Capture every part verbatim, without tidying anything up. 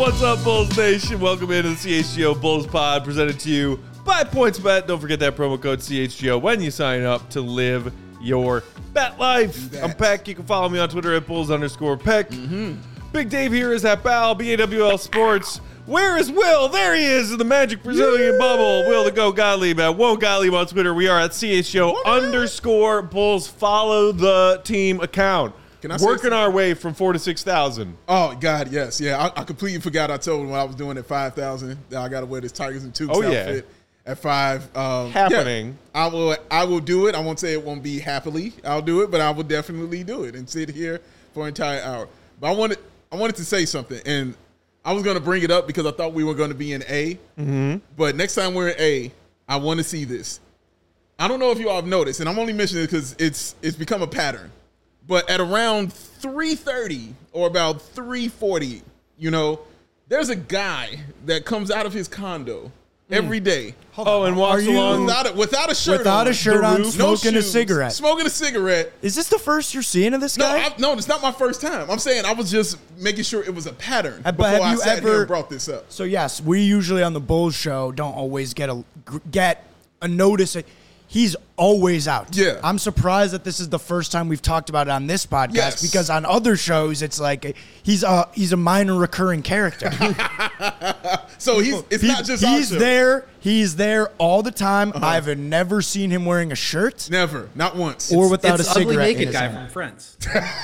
What's up, Bulls Nation? Welcome into the C H G O Bulls Pod, presented to you by PointsBet. Don't forget that promo code C H G O when you sign up to live your bet life. I'm Peck. You can follow me on Twitter at Bulls underscore Peck. Mm-hmm. Big Dave here is at Bal, B A W L Sports. Where is Will? There he is in the Magic Brazilian yeah. bubble. Will the Go Gottlieb at Whoa Gottlieb on Twitter. We are at C H G O underscore Bulls. Follow the team account. Can I Working our way from four to six thousand. Oh God, yes, yeah. I, I completely forgot. I told him when I was doing at five thousand that I got to wear this Tigers and Tukes oh, outfit yeah. at five. Um, Happening. Yeah, I will. I will do it. I won't say it won't be happily. I'll do it, but I will definitely do it and sit here for an entire hour. But I wanted. I wanted to say something, and I was going to bring it up because I thought we were going to be in A. Mm-hmm. But next time we're in A, I want to see this. I don't know if you all have noticed, and I'm only mentioning it because it's it's become a pattern. But at around three thirty or about three forty, you know, there's a guy that comes out of his condo mm. every day. Oh, and walks along without a, without a shirt without on. a shirt on, roof, smoking no a cigarette. Smoking a cigarette. Is this the first you're seeing of this No, guy? I, no, it's not my first time. I'm saying I was just making sure it was a pattern Uh, but before have I you sat ever- here and brought this up. So yes, we usually on the Bulls show don't always get a get a notice. He's always out. Yeah. I'm surprised that this is the first time we've talked about it on this podcast Yes. because on other shows it's like he's a he's a minor recurring character. So he's it's He- not just he's our show. there. He's there all the time. Uh-huh. I've never seen him wearing a shirt Never, not once. or without it's a cigarette. ugly in naked his guy hand. from Friends.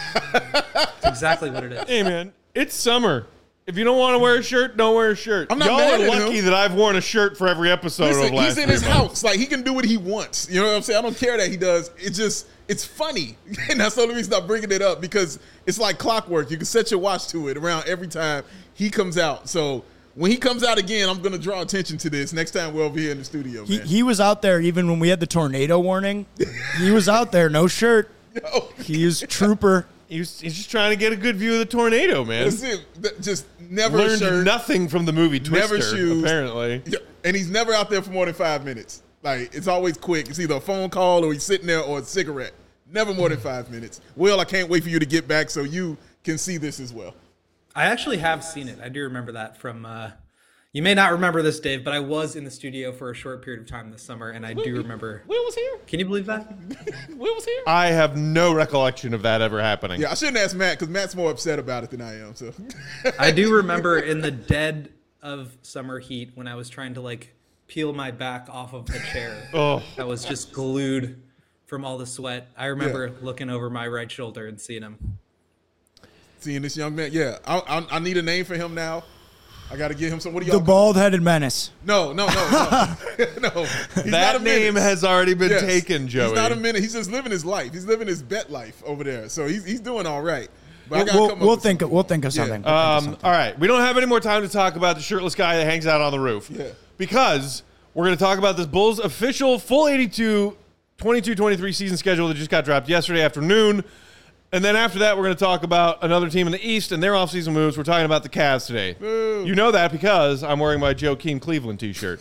That's exactly what it is. Hey, man, it's summer. If you don't want to wear a shirt, don't wear a shirt. I'm not Y'all mad are at lucky him. that I've worn a shirt for every episode Listen, of the last he's in three his months. house. Like, he can do what he wants. You know what I'm saying? I don't care that he does. It's just, it's funny. And that's the only reason I'm bringing it up because it's like clockwork. You can set your watch to it around every time he comes out. So when he comes out again, I'm going to draw attention to this next time we're over here in the studio, He, man. he was out there even when we had the tornado warning. He was out there, no shirt. Yo, He's trooper. He was, he's just trying to get a good view of the tornado, man. that's it. Th- Just never a Learned shirt. nothing from the movie Twister, Never shoes. apparently. Yeah, and he's never out there for more than five minutes. Like, it's always quick. It's either a phone call or he's sitting there or a cigarette. Never more than five minutes. Will, I can't wait for you to get back so you can see this as well. I actually have seen it. I do remember that from. Uh, you may not remember this, Dave, but I was in the studio for a short period of time this summer, and I do remember. Will was here? Can you believe that? Will was here? I have no recollection of that ever happening. Yeah, I shouldn't ask Matt because Matt's more upset about it than I am. So I do remember in the dead of summer heat when I was trying to like peel my back off of the chair Oh. that was just glued from all the sweat. I remember looking over my right shoulder and seeing him. seeing this young man, yeah, I, I, I need a name for him now. I got to get him some. What do y'all? The call- bald-headed menace. No, no, no, no, no. He's not That a name menace. has already been Yes. taken, Joey. He's not a minute. He's just living his life. He's living his bet life over there. So he's he's doing all right. But I We'll, gotta we'll, come up we'll with think. something. We'll think of Yeah. something. We'll think of Um, something. all right. We don't have any more time to talk about the shirtless guy that hangs out on the roof. Yeah. Because we're going to talk about this Bulls official full eighty-two twenty-two twenty-three season schedule that just got dropped yesterday afternoon. And then after that, we're going to talk about another team in the East and their offseason moves. We're talking about the Cavs today. Boo. You know that because I'm wearing my Joakim Cleveland t-shirt.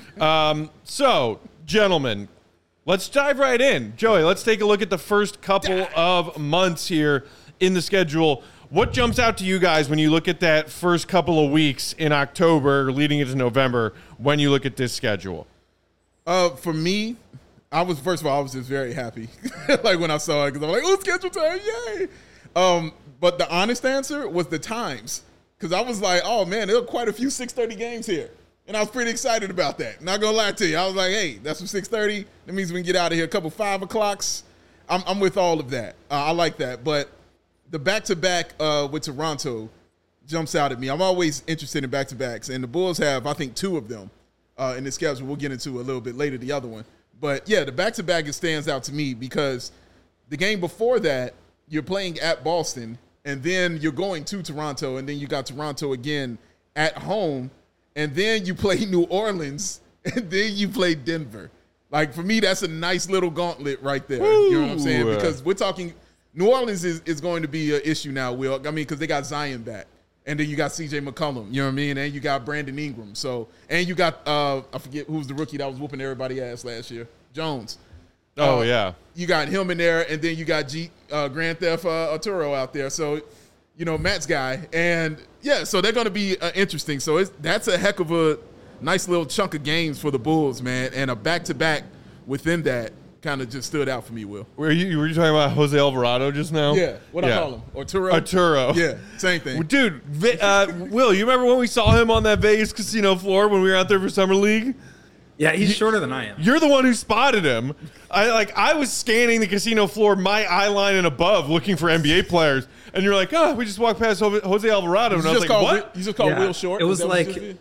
um, so, gentlemen, let's dive right in. Joey, let's take a look at the first couple of months here in the schedule. What jumps out to you guys when you look at that first couple of weeks in October leading into November when you look at this schedule? Uh, for me, I was first of all, I was just very happy, like when I saw it, because I'm like, "Oh, schedule time, yay!" Um, but the honest answer was the times, because I was like, "Oh man, there are quite a few six thirty games here," and I was pretty excited about that. Not gonna lie to you, I was like, "Hey, that's from six thirty. That means we can get out of here a couple five o'clocks." I'm, I'm with all of that. Uh, I like that, but the back to back with Toronto jumps out at me. I'm always interested in back to backs, and the Bulls have, I think, two of them uh, in the schedule. We'll get into a little bit later the other one. But, yeah, the back-to-back stands out to me because the game before that, you're playing at Boston, and then you're going to Toronto, and then you got Toronto again at home, and then you play New Orleans, and then you play Denver. Like, for me, that's a nice little gauntlet right there. Woo. You know what I'm saying? Because we're talking – New Orleans is, is going to be an issue now, Will. I mean, because they got Zion back. And then you got C J McCollum, you know what I mean? And you got Brandon Ingram. So, and you got, uh, I forget who was the rookie that was whooping everybody's ass last year, Jones. Oh, Uh, yeah. You got him in there, and then you got G, uh, Grand Theft uh, Arturo out there. So, you you know, Matt's guy. And, yeah, so they're going to be uh, interesting. So it's, that's a heck of a nice little chunk of games for the Bulls, man. And a back-to-back within that kind of just stood out for me, Will. Were you, were you talking about Jose Alvarado just now? Yeah. What yeah. I call him? Arturo? Arturo. Yeah, same thing. Dude, uh, Will, you remember when we saw him on that Vegas casino floor when we were out there for Summer League? Yeah, he's shorter than I am. You're the one who spotted him. I like I was scanning the casino floor, my eye line and above, looking for N B A players, and you're like, oh, we just walked past Jose Alvarado, and I was like, what? Will, you just called yeah, Will short? It was like it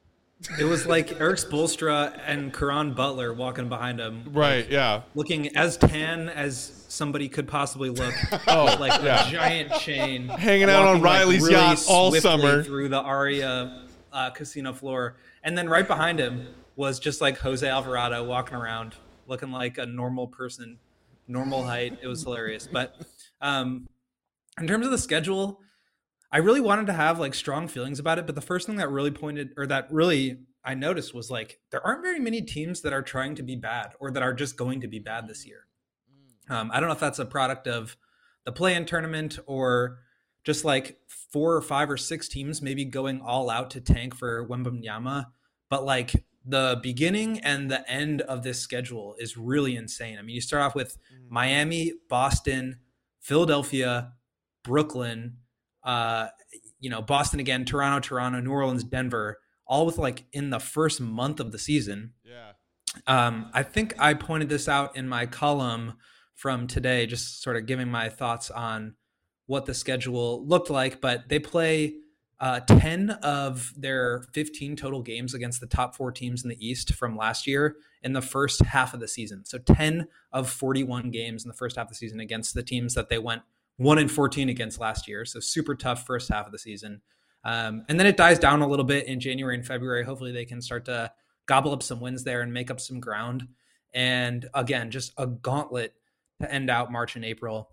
was like Eric Spoelstra and Caron Butler walking behind him, right? Like, yeah, looking as tan as somebody could possibly look. Oh, with like yeah. a giant chain, hanging out on Riley's like really yacht all summer through the Aria uh, casino floor, and then right behind him was just like Jose Alvarado walking around looking like a normal person, normal height. It was hilarious. But um, in terms of the schedule, I really wanted to have like strong feelings about it. But the first thing that really pointed or that really I noticed was like, there aren't very many teams that are trying to be bad or that are just going to be bad this year. Um, I don't know if that's a product of the play-in tournament or just like four or five or six teams maybe going all out to tank for Wembanyama. But like, the beginning and the end of this schedule is really insane. I mean, you start off with Miami, Boston, Philadelphia, Brooklyn, uh, you know, Boston again, Toronto, Toronto, New Orleans, Denver, all with like in the first month of the season. Yeah. Um, I think I pointed this out in my column from today, just sort of giving my thoughts on what the schedule looked like, but they play Uh, ten of their fifteen total games against the top four teams in the East from last year in the first half of the season. So ten of forty-one games in the first half of the season against the teams that they went one and fourteen against last year. So super tough first half of the season. Um, and then it dies down a little bit in January and February. Hopefully they can start to gobble up some wins there and make up some ground. And again, just a gauntlet to end out March and April.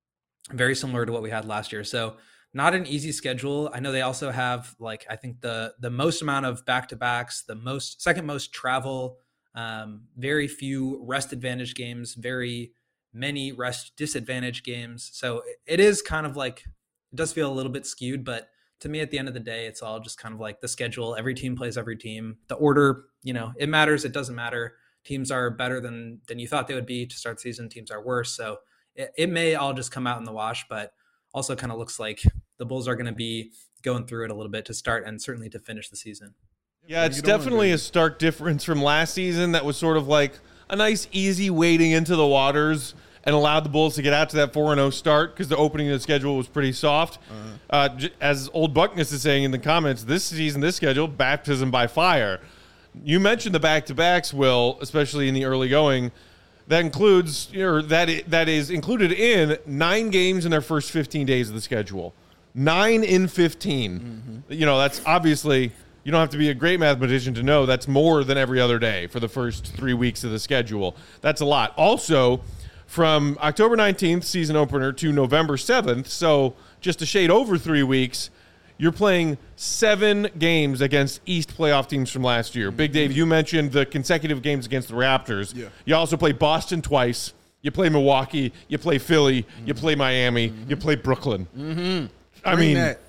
Very similar to what we had last year. So not an easy schedule. I know they also have like, I think the, the most amount of back-to-backs, the most second most travel, um, very few rest advantage games, very many rest disadvantage games. So it is kind of like, it does feel a little bit skewed, but to me at the end of the day, it's all just kind of like the schedule. Every team plays every team. The order, you know, it matters. It doesn't matter. Teams are better than, than you thought they would be to start the season. Teams are worse. So it, it may all just come out in the wash, but also kind of looks like the Bulls are going to be going through it a little bit to start and certainly to finish the season. Yeah, it's definitely a stark difference from last season that was sort of like a nice, easy wading into the waters and allowed the Bulls to get out to that four and oh start because the opening of the schedule was pretty soft. Uh-huh. Uh, j- as Old Buckness is saying in the comments, this season, this schedule, baptism by fire. You mentioned the back-to-backs, Will, especially in the early going. That includes, or that that is included in nine games in their first fifteen days of the schedule. Nine in fifteen. Mm-hmm. You know, that's obviously, you don't have to be a great mathematician to know that's more than every other day for the first three weeks of the schedule. That's a lot. Also, from October nineteenth, season opener, to November seventh, so just a shade over three weeks, you're playing seven games against East playoff teams from last year. Big Dave, you mentioned the consecutive games against the Raptors. Yeah. You also play Boston twice. You play Milwaukee. You play Philly. Mm-hmm. You play Miami. Mm-hmm. You play Brooklyn. Mm-hmm. I mean, that.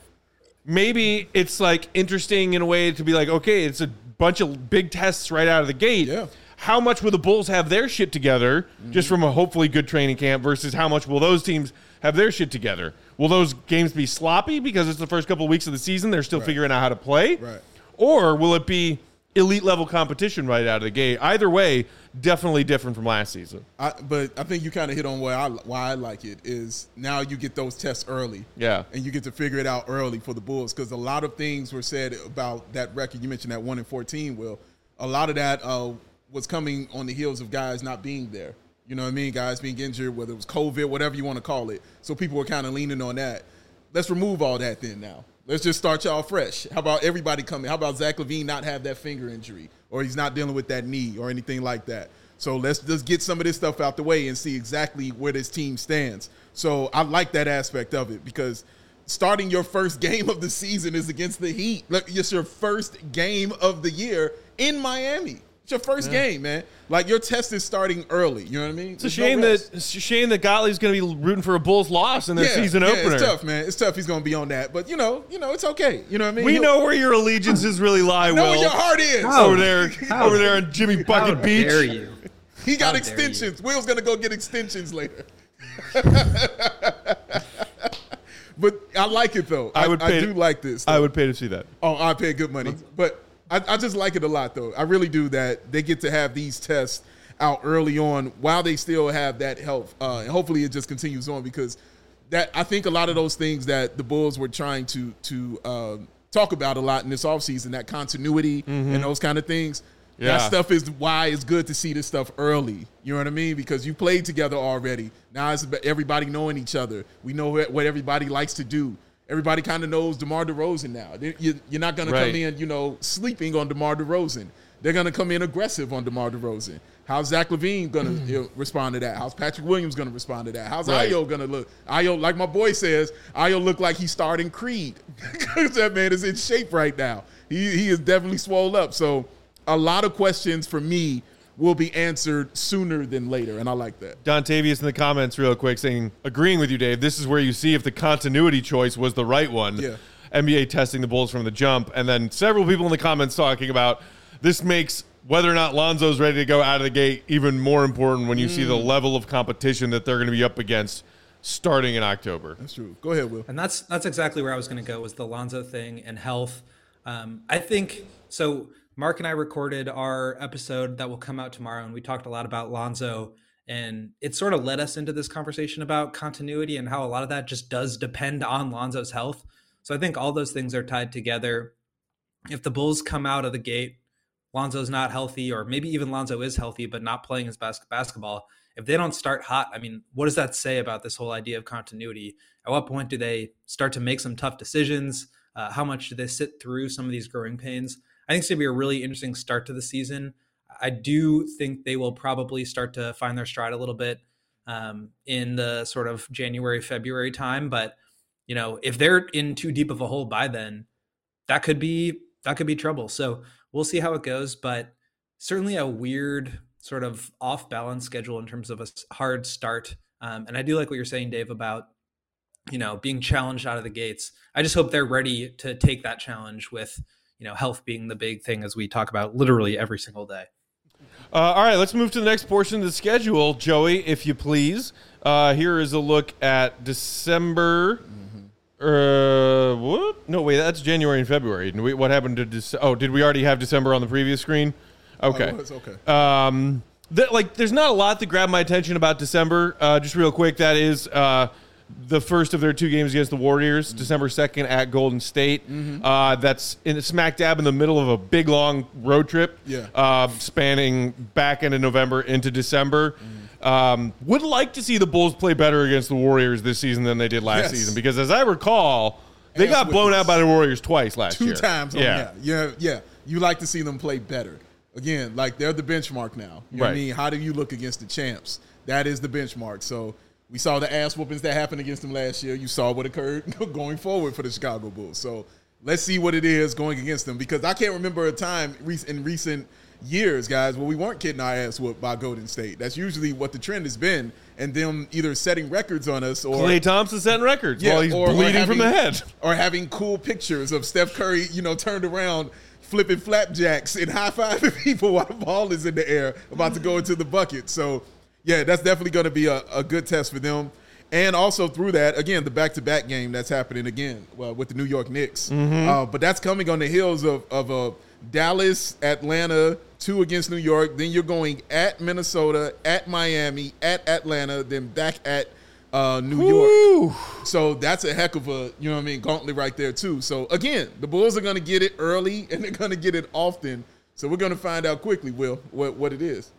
Maybe it's like interesting in a way to be like, okay, it's a bunch of big tests right out of the gate. Yeah. How much will the Bulls have their shit together mm-hmm. just from a hopefully good training camp versus how much will those teams have their shit together? Will those games be sloppy because it's the first couple of weeks of the season, they're still right. figuring out how to play? Right. Or will it be elite level competition right out of the gate? Either way, definitely different from last season. I, but I think you kind of hit on why I, why I like it is now you get those tests early. Yeah. And you get to figure it out early for the Bulls because a lot of things were said about that record. You mentioned that one in fourteen, Will. A lot of that uh, was coming on the heels of guys not being there. You know what I mean? Guys being injured, whether it was COVID, whatever you want to call it. So people were kind of leaning on that. Let's remove all that then now. Let's just start y'all fresh. How about everybody coming? How about Zach LaVine not have that finger injury or he's not dealing with that knee or anything like that? So let's just get some of this stuff out the way and see exactly where this team stands. So I like that aspect of it because starting your first game of the season is against the Heat. Look, it's your first game of the year in Miami. It's your first yeah. game, man. Like, your test is starting early. You know what I mean? It's There's a shame no that it's a shame that Gottlieb's going to be rooting for a Bulls loss in their yeah, season yeah, opener. It's tough, man. It's tough. He's going to be on that, but you know, you know, it's okay. You know what I mean? We He'll, know where your allegiances really lie. I know Will. where your heart is. How? Over there, How? over there on Jimmy Bucket How Beach. Dare you? He got How extensions. Will's going to go get extensions later. But I like it though. I, I would. Pay I do to, like this. Though. I would pay to see that. Oh, I pay good money, but I, I just like it a lot though. I really do that they get to have these tests out early on while they still have that health, uh, and hopefully it just continues on because that I think a lot of those things that the Bulls were trying to to um, talk about a lot in this offseason, that continuity mm-hmm. and those kind of things. Yeah. That stuff is why it's good to see this stuff early. You know what I mean? Because you played together already. Now it's about everybody knowing each other. We know what everybody likes to do. Everybody kind of knows DeMar DeRozan now. You're not going right. to come in, you know, sleeping on DeMar DeRozan. They're going to come in aggressive on DeMar DeRozan. How's Zach LaVine going to you know, respond to that? How's Patrick Williams going to respond to that? How's right. Ayo going to look? Ayo, like my boy says, Ayo look like he's starting Creed. Because that man is in shape right now. He, he is definitely swole up. So, a lot of questions for me will be answered sooner than later, and I like that. Dontavius in the comments real quick saying, agreeing with you, Dave, this is where you see if the continuity choice was the right one. Yeah. N B A testing the Bulls from the jump. And then several people in the comments talking about this makes whether or not Lonzo's ready to go out of the gate even more important when you mm. see the level of competition that they're going to be up against starting in October. That's true. Go ahead, Will. And that's that's exactly where I was going to go was the Lonzo thing and health. Um, I think – so – Mark and I recorded our episode that will come out tomorrow, and we talked a lot about Lonzo, and it sort of led us into this conversation about continuity and how a lot of that just does depend on Lonzo's health. So I think all those things are tied together. If the Bulls come out of the gate, Lonzo's not healthy, or maybe even Lonzo is healthy but not playing his bas- basketball, if they don't start hot, I mean, what does that say about this whole idea of continuity? At what point do they start to make some tough decisions? Uh, how much do they sit through some of these growing pains? I think it's going to be a really interesting start to the season. I do think they will probably start to find their stride a little bit um, in the sort of January, February time. But, you know, if they're in too deep of a hole by then, that could be that could be trouble. So we'll see how it goes. But certainly a weird sort of off balance schedule in terms of a hard start. Um, and I do like what you're saying, Dave, about, you know, being challenged out of the gates. I just hope they're ready to take that challenge with, you know, health being the big thing as we talk about literally every single day. Uh, all right, let's move to the next portion of the schedule, Joey, if you please. Uh, here is a look at December. Mm-hmm. Uh, what? No, wait, that's January and February. What happened to December? Oh, did we already have December on the previous screen? Okay. Oh, it's okay. Um, th- like, there's not a lot to grab my attention about December. Uh, just real quick, that is uh, the first of their two games against the Warriors, mm-hmm. December second at Golden State. Mm-hmm. Uh, that's in smack dab in the middle of a big, long road trip, yeah. uh, spanning back into November into December. Mm-hmm. Um, would like to see the Bulls play better against the Warriors this season than they did last yes. season, because as I recall, they Ass got blown out by the Warriors twice last two year. Two times. On yeah. yeah, yeah. You like to see them play better. Again, like they're the benchmark now. You know right. what I mean? How do you look against the champs? That is the benchmark. So we saw the ass whoopings that happened against them last year. You saw what occurred going forward for the Chicago Bulls. So let's see what it is going against them, because I can't remember a time in recent years, guys, where we weren't getting our ass whooped by Golden State. That's usually what the trend has been, and them either setting records on us or Klay Thompson setting records yeah, while he's or, bleeding or having, from the head, or having cool pictures of Steph Curry, you know, turned around flipping flapjacks and high-fiving people while the ball is in the air about to go into the bucket. So, yeah, that's definitely going to be a, a good test for them. And also through that, again, the back-to-back game that's happening again well, with the New York Knicks. Mm-hmm. Uh, but that's coming on the heels of, of a Dallas, Atlanta, two against New York. Then you're going at Minnesota, at Miami, at Atlanta, then back at uh, New Woo. York. So that's a heck of a, you know what I mean, gauntlet right there too. So, again, the Bulls are going to get it early, and they're going to get it often. So we're going to find out quickly, Will, what, what it is.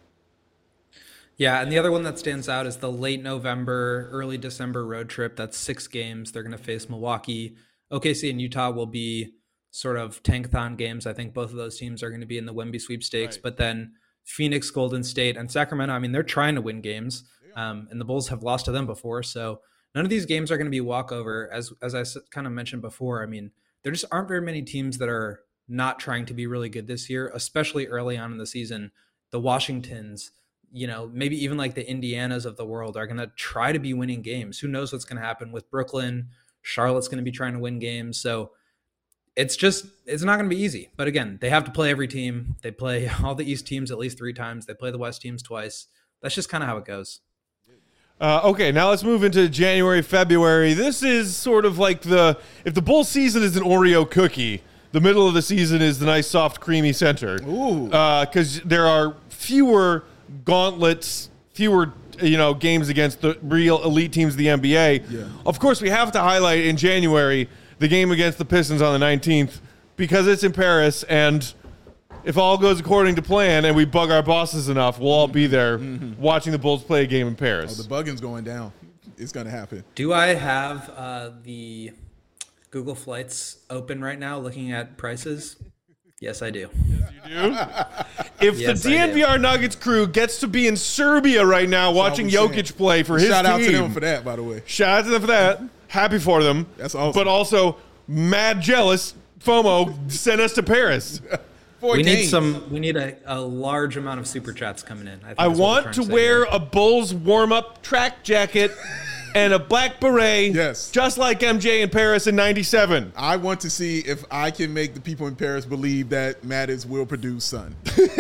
Yeah, and the other one that stands out is the late November, early December road trip. That's six games. They're going to face Milwaukee. O K C and Utah will be sort of tankathon games. I think both of those teams are going to be in the Wemby sweepstakes. Right. But then Phoenix, Golden State, and Sacramento, I mean, they're trying to win games, um, and the Bulls have lost to them before. So none of these games are going to be walkover. As as I kind of mentioned before, I mean, there just aren't very many teams that are not trying to be really good this year, especially early on in the season. The Washingtons, you know, maybe even like the Indianas of the world are going to try to be winning games. Who knows what's going to happen with Brooklyn? Charlotte's going to be trying to win games. So it's just, it's not going to be easy. But again, they have to play every team. They play all the East teams at least three times. They play the West teams twice. That's just kind of how it goes. Uh, okay, now let's move into January, February. This is sort of like the, if the Bulls season is an Oreo cookie, the middle of the season is the nice, soft, creamy center. Ooh. Because uh, there are fewer gauntlets, fewer you know games against the real elite teams of the N B A. Yeah. Of course, we have to highlight in January the game against the Pistons on the nineteenth because it's in Paris, and if all goes according to plan and we bug our bosses enough, we'll all be there mm-hmm. watching the Bulls play a game in Paris. Oh, the bugging's going down. It's going to happen. Do I have uh, the Google Flights open right now looking at prices? Yes, I do. Yes, you do? If Yes, the D N V R do. Nuggets crew gets to be in Serbia right now watching Jokic play for his Shout team. out to them for that, by the way. Shout out to them for that. Happy for them. That's awesome. But also mad jealous. FOMO sent us to Paris. Four We games. need some. We need a, a large amount of super chats coming in. I, think I that's what we're want trying to say wear here. a Bulls warm-up track jacket and a black beret, Yes. just like M J in Paris in ninety-seven. I want to see if I can make the people in Paris believe that Mattis will produce son.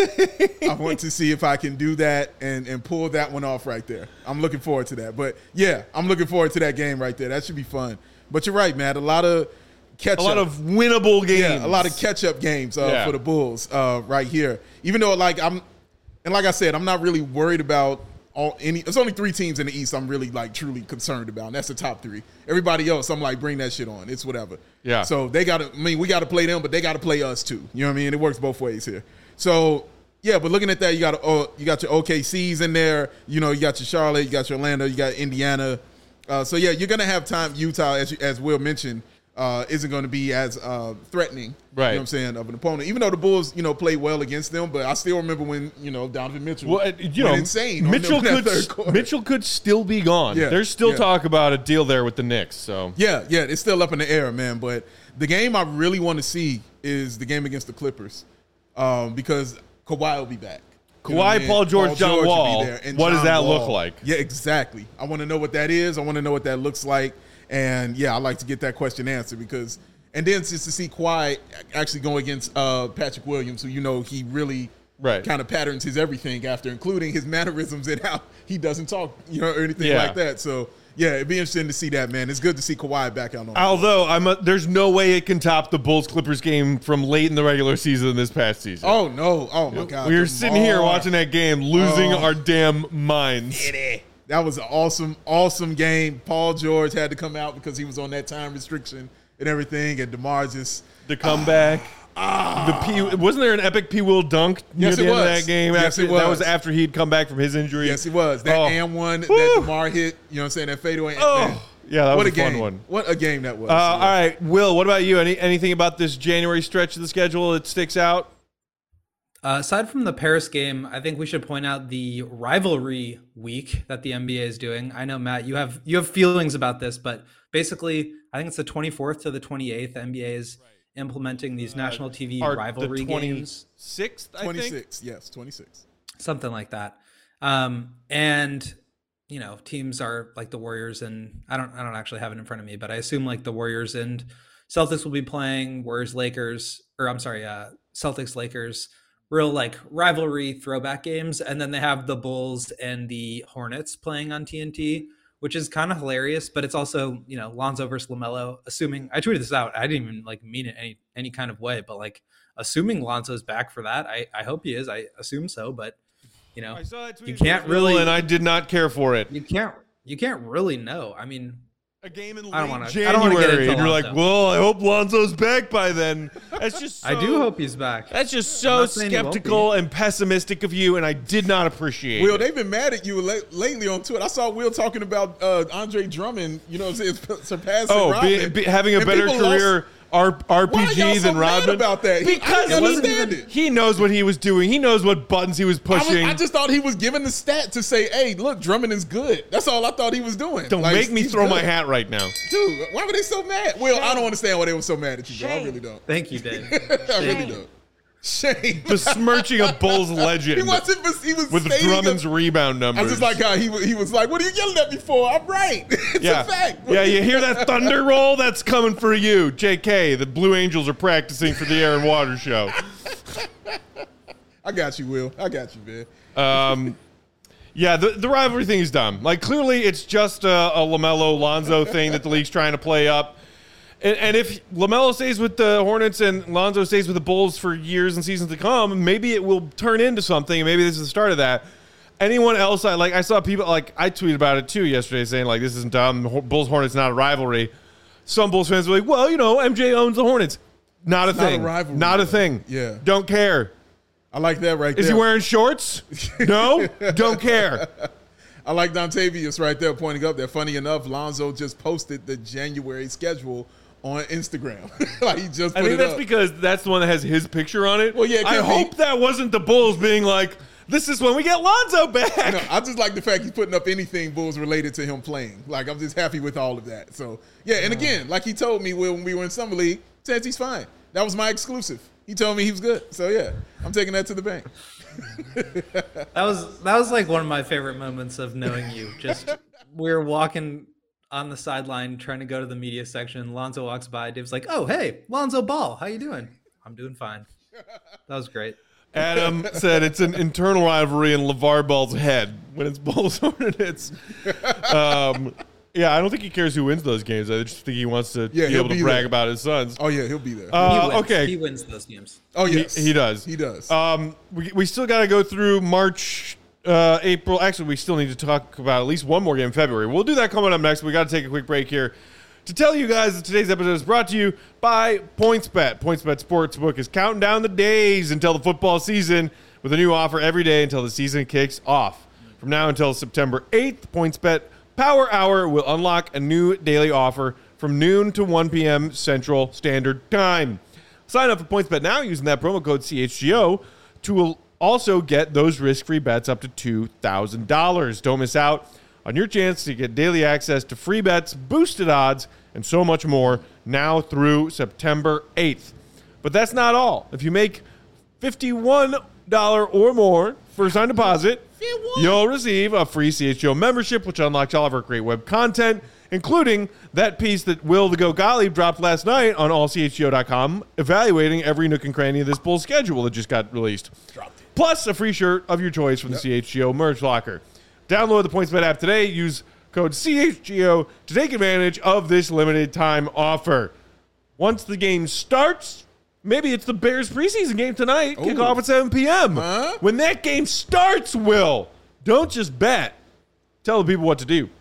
I want to see if I can do that and, and pull that one off right there. I'm looking forward to that. But, yeah, I'm looking forward to that game right there. That should be fun. But you're right, Matt. A lot of catch-up. A lot of winnable games. Yeah, a lot of catch-up games uh, Yeah. for the Bulls uh, right here. Even though, like, I'm – and like I said, I'm not really worried about – All, any, there's only three teams in the East I'm really like truly concerned about, and that's the top three. Everybody else, I'm like, bring that shit on. It's whatever. Yeah. So they got to. I mean, we got to play them, but they got to play us too. You know what I mean? It works both ways here. So yeah, but looking at that, you got uh, you got your O K Cs in there. You know, you got your Charlotte, you got your Orlando, you got Indiana. Uh, so yeah, you're gonna have time. Utah, as you, as Will mentioned, uh, isn't going to be as uh, threatening. Right. You know what I'm saying, of an opponent. Even though the Bulls, you know, played well against them, but I still remember when, you know, Donovan Mitchell Well, uh, you went know, insane on Mitchell them in that could third quarter. Mitchell could still be gone. Yeah, There's still yeah. talk about a deal there with the Knicks. So Yeah, yeah, it's still up in the air, man. But the game I really want to see is the game against the Clippers, um, because Kawhi will be back. You know Kawhi, what I mean? Paul George, John will be Wall. there, and What does John that look Wall. like? Yeah, exactly. I want to know what that is. I want to know what that looks like. And yeah, I like to get that question answered because, and then just to see Kawhi actually go against uh, Patrick Williams, who you know he really Right. kind of patterns his everything after, including his mannerisms and how he doesn't talk, you know, or anything Yeah. like that. So yeah, it'd be interesting to see that, man. It's good to see Kawhi back out on. although I'm a, there's no way it can top the Bulls Clippers game from late in the regular season this past season. Oh no! Oh my God! we were Come sitting here on. watching that game, losing Oh. our damn minds. That was an awesome, awesome game. Paul George had to come out because he was on that time restriction and everything, and DeMar just The comeback. The P, wasn't there an epic P. Will dunk near Yes, the it end of was. that game? Yes, after, it was. That was after he'd come back from his injury. yes, he was that Oh. and one that Woo. DeMar hit. You know what I'm saying? That fadeaway. Oh. man. Yeah, that what was a a fun game. one. What a game that was. Uh, all right, Will, what about you? Any anything about this January stretch of the schedule that sticks out? Uh, aside from the Paris game, I think we should point out the rivalry week that the N B A is doing. I know, Matt, you have you have feelings about this, but basically, I think it's the twenty-fourth to the twenty-eighth. The N B A is implementing these national T V Or rivalry the games, twenty-sixth, I think. twenty-six. Yes, twenty-six. something like that. Um, and you know, teams are like the Warriors, and I don't I don't actually have it in front of me, but I assume like the Warriors and Celtics will be playing Warriors Lakers, or I'm sorry, uh, Celtics Lakers. Real like rivalry throwback games, and then they have the Bulls and the Hornets playing on T N T, which is kind of hilarious, but it's also, you know, Lonzo versus LaMelo. Assuming I tweeted this out, I didn't even like mean it any any kind of way, but like assuming Lonzo's back for that, I I hope he is. I assume so, but you know, I saw that tweet you can't from Will, really, and I did not care for it. you can't you can't really know. I mean, A game in late I don't wanna- I don't wanna get January, into and you're like, Lonzo. well, I hope Lonzo's back by then. That's just so, I do hope he's back. That's just I'm so not saying he won't skeptical and pessimistic of you, and I did not appreciate Will, it. they've been mad at you la- lately on Twitter. I saw Will talking about uh, Andre Drummond, you know what I'm saying, surpassing Oh, Rodman. be, be, having a And better people career lost- R- Why are y'all RPGs so and mad Rodman? about that? He- I Because didn't he, understand it. he knows what he was doing. He knows what buttons he was I, was, pushing. I just thought he was giving the stat to say, hey, look, Drummond is good. That's all I thought he was doing. Don't Like, make me he's throw good. my hat right now. Dude, why were they so mad? Well, I don't understand why they were so mad at you, bro. I Shame. really don't. Thank you, Dave. I really don't. Shame. Besmirching a Bulls legend He wasn't. He was with stating Drummond's a- rebound I numbers. just like how he wa- he was like, "What are you yelling at me for? I'm right. It's yeah. a fact." Yeah, you hear that thunder roll? That's coming for you. J K, the Blue Angels are practicing for the Air and Water show. I got you, Will. I got you, man. Um, yeah, the, the rivalry thing is dumb. Like, clearly it's just a, a LaMelo-Lonzo thing that the league's trying to play up. And, and if LaMelo stays with the Hornets and Lonzo stays with the Bulls for years and seasons to come, maybe it will turn into something, and maybe this is the start of that. Anyone else, I like, I saw people, like, I tweeted about it too yesterday saying, like, this isn't dumb. Bulls-Hornets not a rivalry. Some Bulls fans were like, well, you know, M J owns the Hornets. Not a Not a thing. rivalry, Not a though. thing. Yeah. Don't care. I like that right Is there. he wearing shorts? No? Don't care. I like Dontavius right there pointing up there. Funny enough, Lonzo just posted the January schedule on Instagram. Like he just put I think it that's up. because that's the one that has his picture on it. Well, yeah, it I could be. hope that wasn't the Bulls being like, this is when we get Lonzo back. No, I just like the fact he's putting up anything Bulls related to him playing. Like I'm just happy with all of that. So yeah, and again, like he told me when we were in summer league, says he's fine. That was my exclusive. He told me he was good. So yeah, I'm taking that to the bank. That was that was like one of my favorite moments of knowing you. Just we were walking on the sideline trying to go to the media section. Lonzo walks by. Dave's like, "Oh, hey, Lonzo Ball, how you doing?" "I'm doing fine." That was great. Adam said it's an internal rivalry in LeVar Ball's head when it's Bulls Hornets. Um, yeah, I don't think he cares who wins those games. I just think he wants to Yeah, be he'll able to be brag there. about his sons. Oh yeah, he'll be there. Uh, he wins. okay. He wins those games. oh He, yes, he does. He does. Um, we, we still got to go through March, uh, April. Actually, we still need to talk about at least one more game in February. We'll do that coming up next. We got to take a quick break here to tell you guys that today's episode is brought to you by PointsBet. PointsBet Sportsbook is counting down the days until the football season with a new offer every day until the season kicks off. From now until September eighth, PointsBet Power Hour will unlock a new daily offer from noon to one p.m. Central Standard Time. Sign up for PointsBet now using that promo code C H G O to also get those risk-free bets up to two thousand dollars. Don't miss out on your chance to get daily access to free bets, boosted odds, and so much more now through September eighth. But that's not all. If you make fifty-one dollars or more first-time deposit, you'll receive a free C H G O membership, which unlocks all of our great web content, including that piece that Will the Go Gottlieb dropped last night on all c h g o dot com, evaluating every nook and cranny of this Bulls schedule that just got released. Plus, a free shirt of your choice from the C H G O merch locker. Download the PointsBet app today. Use code C H G O to take advantage of this limited time offer. Once the game starts, maybe it's the Bears preseason game tonight. Kick Ooh. off at seven p.m. Huh? When that game starts, Will, don't just bet. Tell the people what to do.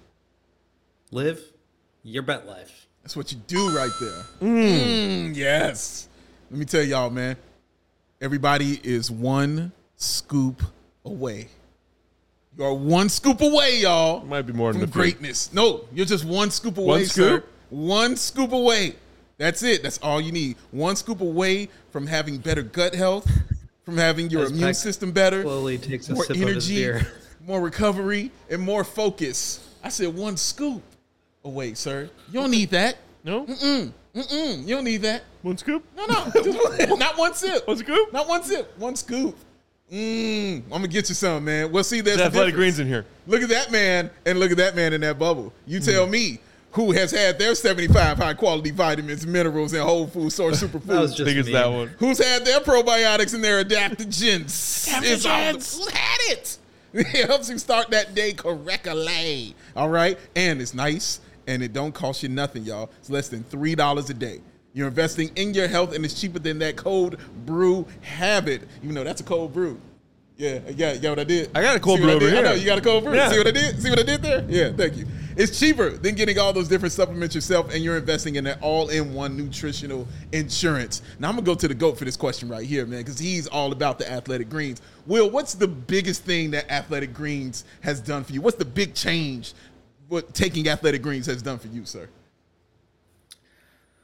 Live your bet life. That's what you do right there. Mm, yes. Let me tell y'all, man. Everybody is one scoop away. You are one scoop away, y'all. Might be more than from a few. greatness. No, you're just one scoop away, One sir. scoop? One scoop away. That's it. That's all you need. One scoop away from having better gut health, from having your As immune Peck system better, Slowly takes a more sip of his energy, beer. more recovery, and more focus. I said one scoop away, sir. You don't need that. No? Mm-mm. Mm-mm. You don't need that. One scoop? No, no. Just one- not one sip. One scoop? Not one sip. One scoop. Mmm. I'm going to get you some, man. Well, see, there's There's the Athletic difference. Greens in here. Look at that man, and look at that man in that bubble. You tell me who has had their seventy-five high-quality vitamins, minerals, and whole food source That was superfoods. just I think it's me. that one. Who's had their probiotics and their adaptogens? It's all the- Who's had it? It helps you start that day correctly. All right? And it's nice, and it don't cost you nothing, y'all. It's less than three dollars a day. You're investing in your health, and it's cheaper than that cold brew habit. Even though that's a cold brew. Yeah, yeah, you got what I did? I got a cold See what brew I did? over I know, here. you got a cold brew. Yeah. See what I did? See what I did there? Yeah, thank you. It's cheaper than getting all those different supplements yourself, and you're investing in an all-in-one nutritional insurance. Now, I'm going to go to the GOAT for this question right here, man, because he's all about the Athletic Greens. Will, what's the biggest thing that Athletic Greens has done for you? What's the big change what taking Athletic Greens has done for you, sir?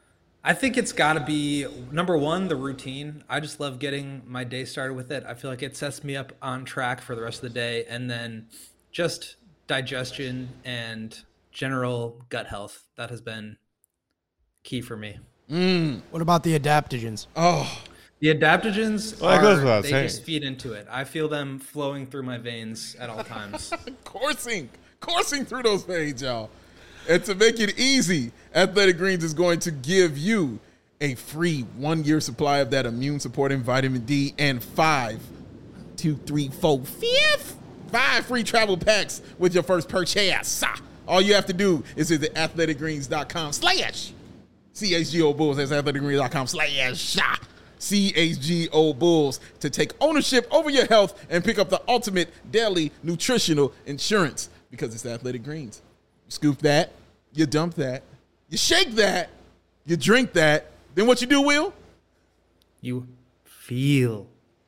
I think it's got to be number one, the routine. I just love getting my day started with it. I feel like it sets me up on track for the rest of the day. And then just digestion and general gut health. That has been key for me. Mm. What about the adaptogens? Oh, The adaptogens, Well, that goes are, without they saying. just feed into it. I feel them flowing through my veins at all times. coursing, coursing through those veins, y'all. And to make it easy, Athletic Greens is going to give you a free one-year supply of that immune-supporting vitamin D and five, two, three, four, fifth, five free travel packs with your first purchase. All you have to do is visit athleticgreens.com slash CHGO Bulls. That's athleticgreens.com slash C H G O Bulls to take ownership over your health and pick up the ultimate daily nutritional insurance because it's Athletic Greens. You scoop that, you dump that, you shake that, you drink that. Then what you do, Will? You feel.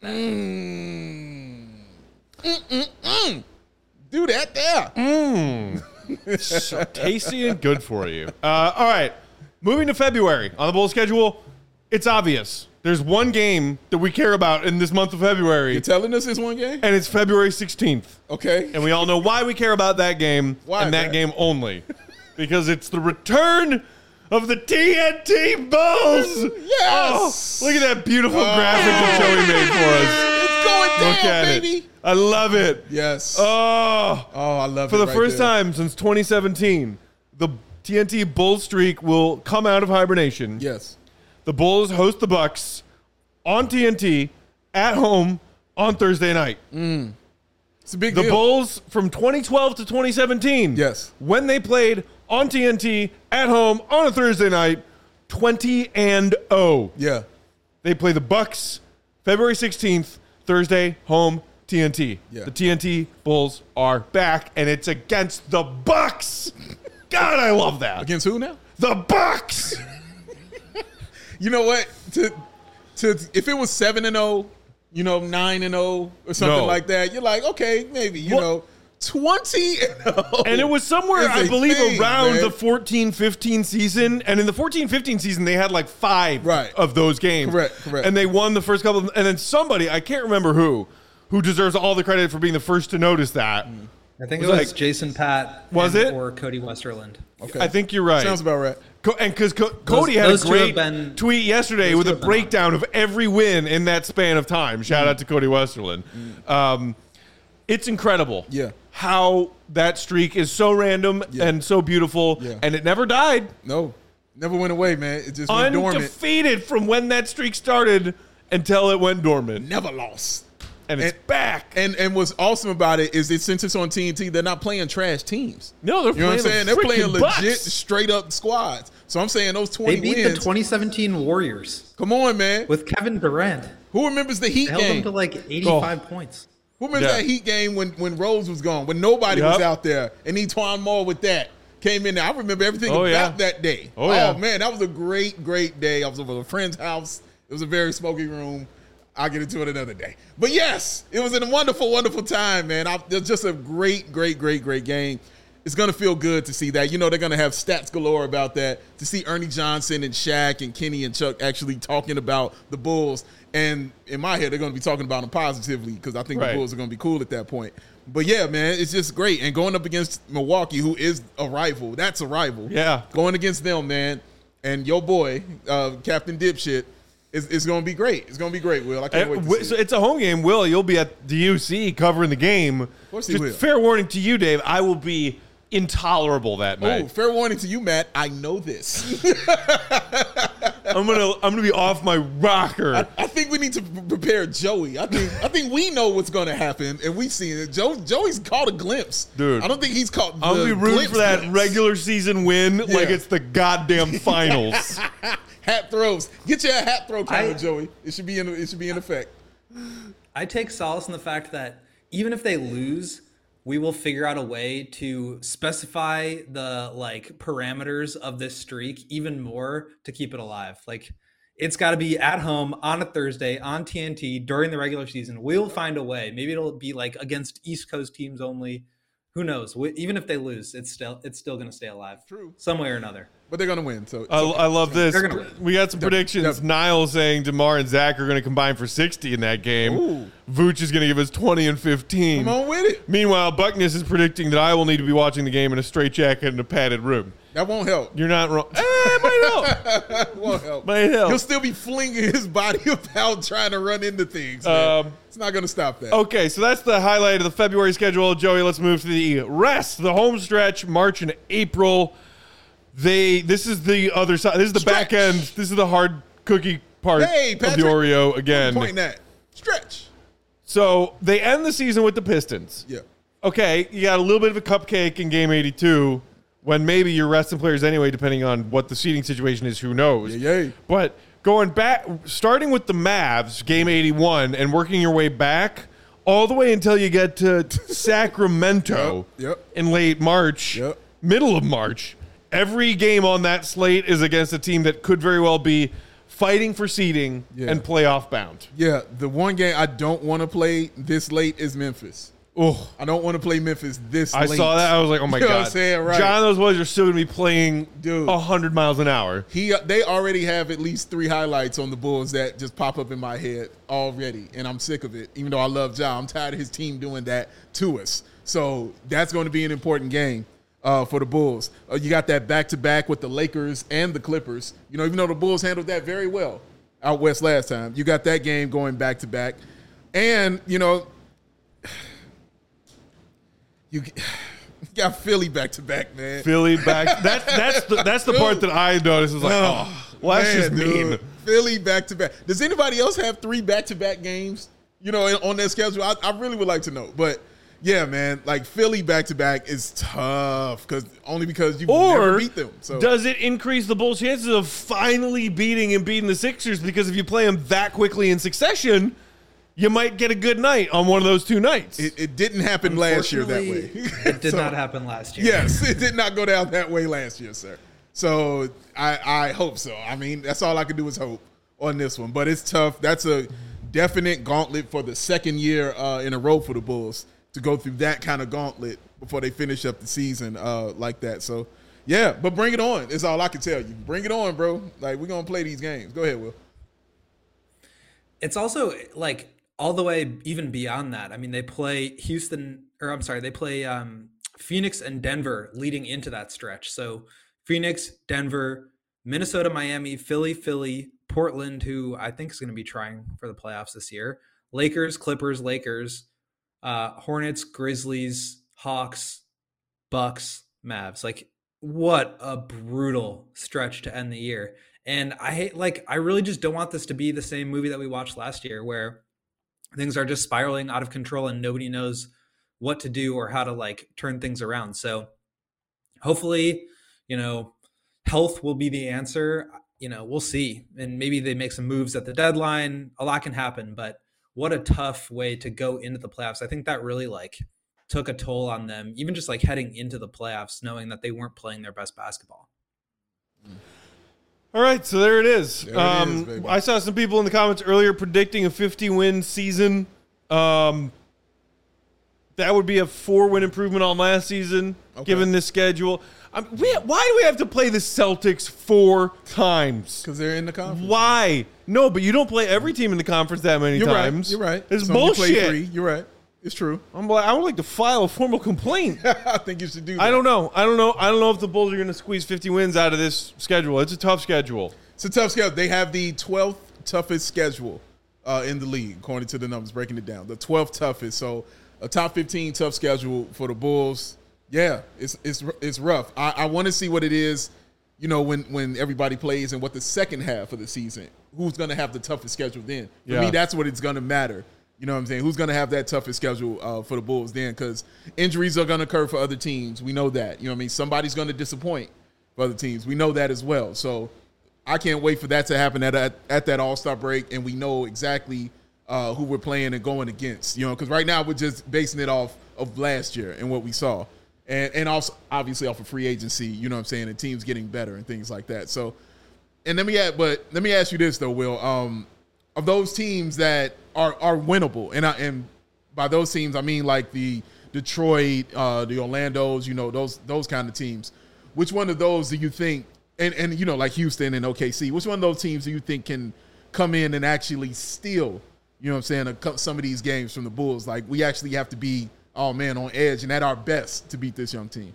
Mm. Mm-mm-mm. Do that there. Mm. So tasty and good for you. Uh, all right. Moving to February on the bowl schedule, it's obvious. There's one game that we care about in this month of February. You're telling us this one game? And it's February sixteenth. Okay. And we all know why we care about that game Why, and that man? game only. Because it's the return of the T N T Bulls. Yes. Oh, look at that beautiful graphic that Joey made for us. It's going down, Look at baby. it. I love it. Yes. Oh. Oh, I love For it the right first there. time since twenty seventeen, the T N T Bull streak will come out of hibernation. Yes. The Bulls host the Bucks on T N T at home on Thursday night. It's a big The deal. Bulls from twenty twelve to twenty seventeen. Yes. When they played on T N T at home on a Thursday night, twenty and oh. Yeah. They play the Bucks February sixteenth, Thursday, home T N T. Yeah. The T N T Bulls are back, and it's against the Bucks. God, I love that. Against who now? The Bucks. You know what? To to if it was seven and zero, you know, nine and zero or something No. like that, you're like, okay, maybe. You What? know, twenty and zero. And it was somewhere, is I a believe, thing, around man. the fourteen fifteen season. And in the fourteen fifteen season, they had like five Right. of those games. Correct, correct. And they won the first couple. Of, and then somebody, I can't remember who, who deserves all the credit for being the first to notice that. I think Was it was like- Jason Pat Was and- it? or Cody Westerland. Okay. I think you're right. Sounds about right. Co- and because Co- Cody had those a two have great been- tweet yesterday those with two a have been breakdown of every win in that span of time. Shout out to Cody Westerland. Um, it's incredible Yeah. how that streak is so random Yeah. and so beautiful, Yeah. and it never died. No. Never went away, man. It just went dormant. Undefeated from when that streak started until it went dormant. Never lost. And it's And- back. And and what's awesome about it is that since it's on T N T, they're not playing trash teams. no, they're You know what playing I'm saying? the They're playing freaking legit, Bucks. straight up squads. So I'm saying those They twenty beat wins. the twenty seventeen Warriors Come on, man. with Kevin Durant. Who remembers the Heat They held them game? to like eighty-five points. Who remembers Yeah. that Heat game when, when Rose was gone, when nobody was Yep. out there, and Etwan Moore with that came in there. I remember everything Oh, about yeah. that day. Oh, yeah. man, that was a great, great day. I was over at a friend's house. It was a very smoky room. I'll get into it another day. But yes, it was a wonderful, wonderful time, man. I, it was just a great, great, great, great game. It's going to feel good to see that. You know, they're going to have stats galore about that. To see Ernie Johnson and Shaq and Kenny and Chuck actually talking about the Bulls. And in my head, they're going to be talking about them positively because I think Right. the Bulls are going to be cool at that point. But yeah, man, it's just great. And going up against Milwaukee, who is a rival, that's a rival. Yeah. Going against them, man. And your boy, uh, Captain Dipshit, is, is going to be great. It's going to be great, Will. I can't Uh, wait to wi- see so it. it's a home game. Will, you'll be at the U C covering the game. Of course he Just will. fair warning to you, Dave. I will be intolerable that Oh, night. fair warning to you, Matt. I know this. I'm gonna I'm gonna be off my rocker. I think we need to p- prepare Joey. I think I think we know what's going to happen, and we've seen it. Joe, Joey's caught a glimpse, Dude. I don't think he's caught. I'm the gonna be rooting glimpse for that glimpse. regular season win like Yeah. it's the goddamn finals. Hat throws. Get your hat throw timer, I- Joey. It should be in. It should be in effect. I take solace in the fact that even if they lose, we will figure out a way to specify the like parameters of this streak even more to keep it alive. Like it's got to be at home on a Thursday on T N T during the regular season. We'll find a way. Maybe it'll be like against East Coast teams only. who knows? W- Even if they lose, it's still it's still going to stay alive. True. Some way or another. But they're gonna win. So I, I love this. They're gonna win. We got some predictions. yep. Niall saying DeMar and Zach are going to combine for sixty in that game. Ooh. Vooch is going to give us twenty and fifteen. Come on with it. Meanwhile, Buckness is predicting that I will need to be watching the game in a straitjacket in a padded room. That won't help. You're not wrong. Eh, it might help. That won't help. Might help. He'll still be flinging his body about trying to run into things. Man. Um, it's not gonna stop that. Okay, so that's the highlight of the February schedule. Joey, let's move to the rest. The home stretch, March and April. They. This is the other side. This is the Stretch. back end. This is the hard cookie part Hey, of Patrick. the Oreo again. Point that. Stretch. So they end the season with the Pistons. Yeah. Okay, you got a little bit of a cupcake in game eighty-two when maybe you're resting players anyway, depending on what the seating situation is. Who knows? Yeah, yeah. But going back, starting with the Mavs, game eighty-one, and working your way back all the way until you get to Sacramento Yep, yep. in late March, Yep. middle of March. Every game on that slate is against a team that could very well be fighting for seeding Yeah. and playoff bound. Yeah. The one game I don't want to play this late is Memphis. Oh, I don't want to play Memphis this I late. saw that. I was like, oh my You know God. what I'm saying? Right. John, those boys are still going to be playing Dude. one hundred miles an hour. He, they already have at least three highlights on the Bulls that just pop up in my head already, and I'm sick of it. Even though I love Ja, I'm tired of his team doing that to us. So that's going to be an important game uh, for the Bulls. Uh, you got that back-to-back with the Lakers and the Clippers. You know, even though the Bulls handled that very well out west last time, you got that game going back-to-back. And, you know, you got Philly back-to-back, man. Philly back. That's that's the, that's the part that I noticed. Is like, oh, well, that's just Man, mean. dude. Philly back to back. Does anybody else have three back to back games? You know, on their schedule. I, I really would like to know. But yeah, man, like Philly back to back is tough because only because you never Or beat them. So does it increase the Bulls' chances of finally beating and beating the Sixers? Because if you play them that quickly in succession, you might get a good night on one of those two nights. it, it didn't happen last year that way. Unfortunately, It did So, not happen last year. Yes, it did not go down that way last year, sir. So I, I hope so. I mean, that's all I can do is hope on this one. But it's tough. That's a definite gauntlet for the second year uh, in a row for the Bulls to go through that kind of gauntlet before they finish up the season uh, like that. So, yeah, but bring it on. Is all I can tell you. Bring it on, bro. Like, we're going to play these games. Go ahead, Will. It's also like all the way even beyond that. I mean, they play Houston, or I'm sorry, they play um, Phoenix and Denver leading into that stretch. So Phoenix, Denver, Minnesota, Miami, Philly, Philly, Portland, who I think is going to be trying for the playoffs this year, Lakers, Clippers, Lakers, uh, Hornets, Grizzlies, Hawks, Bucks, Mavs. Like, what a brutal stretch to end the year. And I hate, like, I really just don't want this to be the same movie that we watched last year where things are just spiraling out of control and nobody knows what to do or how to like turn things around. So hopefully, you know, health will be the answer. You know, we'll see. And maybe they make some moves at the deadline. A lot can happen, but what a tough way to go into the playoffs. I think that really like took a toll on them, even just like heading into the playoffs, knowing that they weren't playing their best basketball. All right, so there it is. There it um, is, baby. I saw some people in the comments earlier predicting a fifty-win season. Um, that would be a four-win improvement on last season, Okay. given this schedule. I mean, we, why do we have to play the Celtics four times? Because they're in the conference. Why? No, but you don't play every team in the conference that many You're times. right. You're right. It's Some you bullshit. play three. You're right. It's true. I'm like, I would like to file a formal complaint. I think you should do that. I don't know. I don't know. I don't know if the Bulls are going to squeeze fifty wins out of this schedule. It's a tough schedule. It's a tough schedule. They have the twelfth toughest schedule uh, in the league, according to the numbers, breaking it down. The twelfth toughest. So a top fifteen tough schedule for the Bulls. Yeah, it's it's it's rough. I, I want to see what it is, you know, when, when everybody plays and what the second half of the season, who's going to have the toughest schedule then. For Yeah. me, that's what it's going to matter. You know what I'm saying? Who's going to have that toughest schedule uh, for the Bulls then? Because injuries are going to occur for other teams. We know that. You know what I mean? Somebody's going to disappoint for other teams. We know that as well. So I can't wait for that to happen at at, at that All-Star break, and we know exactly uh, who we're playing and going against. You know, because right now we're just basing it off of last year and what we saw. And and also, obviously, off of free agency, you know what I'm saying, and teams getting better and things like that. So, and let me add, but let me ask you this, though, Will. Um, of those teams that are are winnable, and I, and by those teams, I mean like the Detroit, uh, the Orlandos, you know, those those kind of teams. Which one of those do you think, and, and, you know, like Houston and O K C, which one of those teams do you think can come in and actually steal, you know what I'm saying, a, cou- some of these games from the Bulls? Like, we actually have to be, oh, man, on edge and at our best to beat this young team.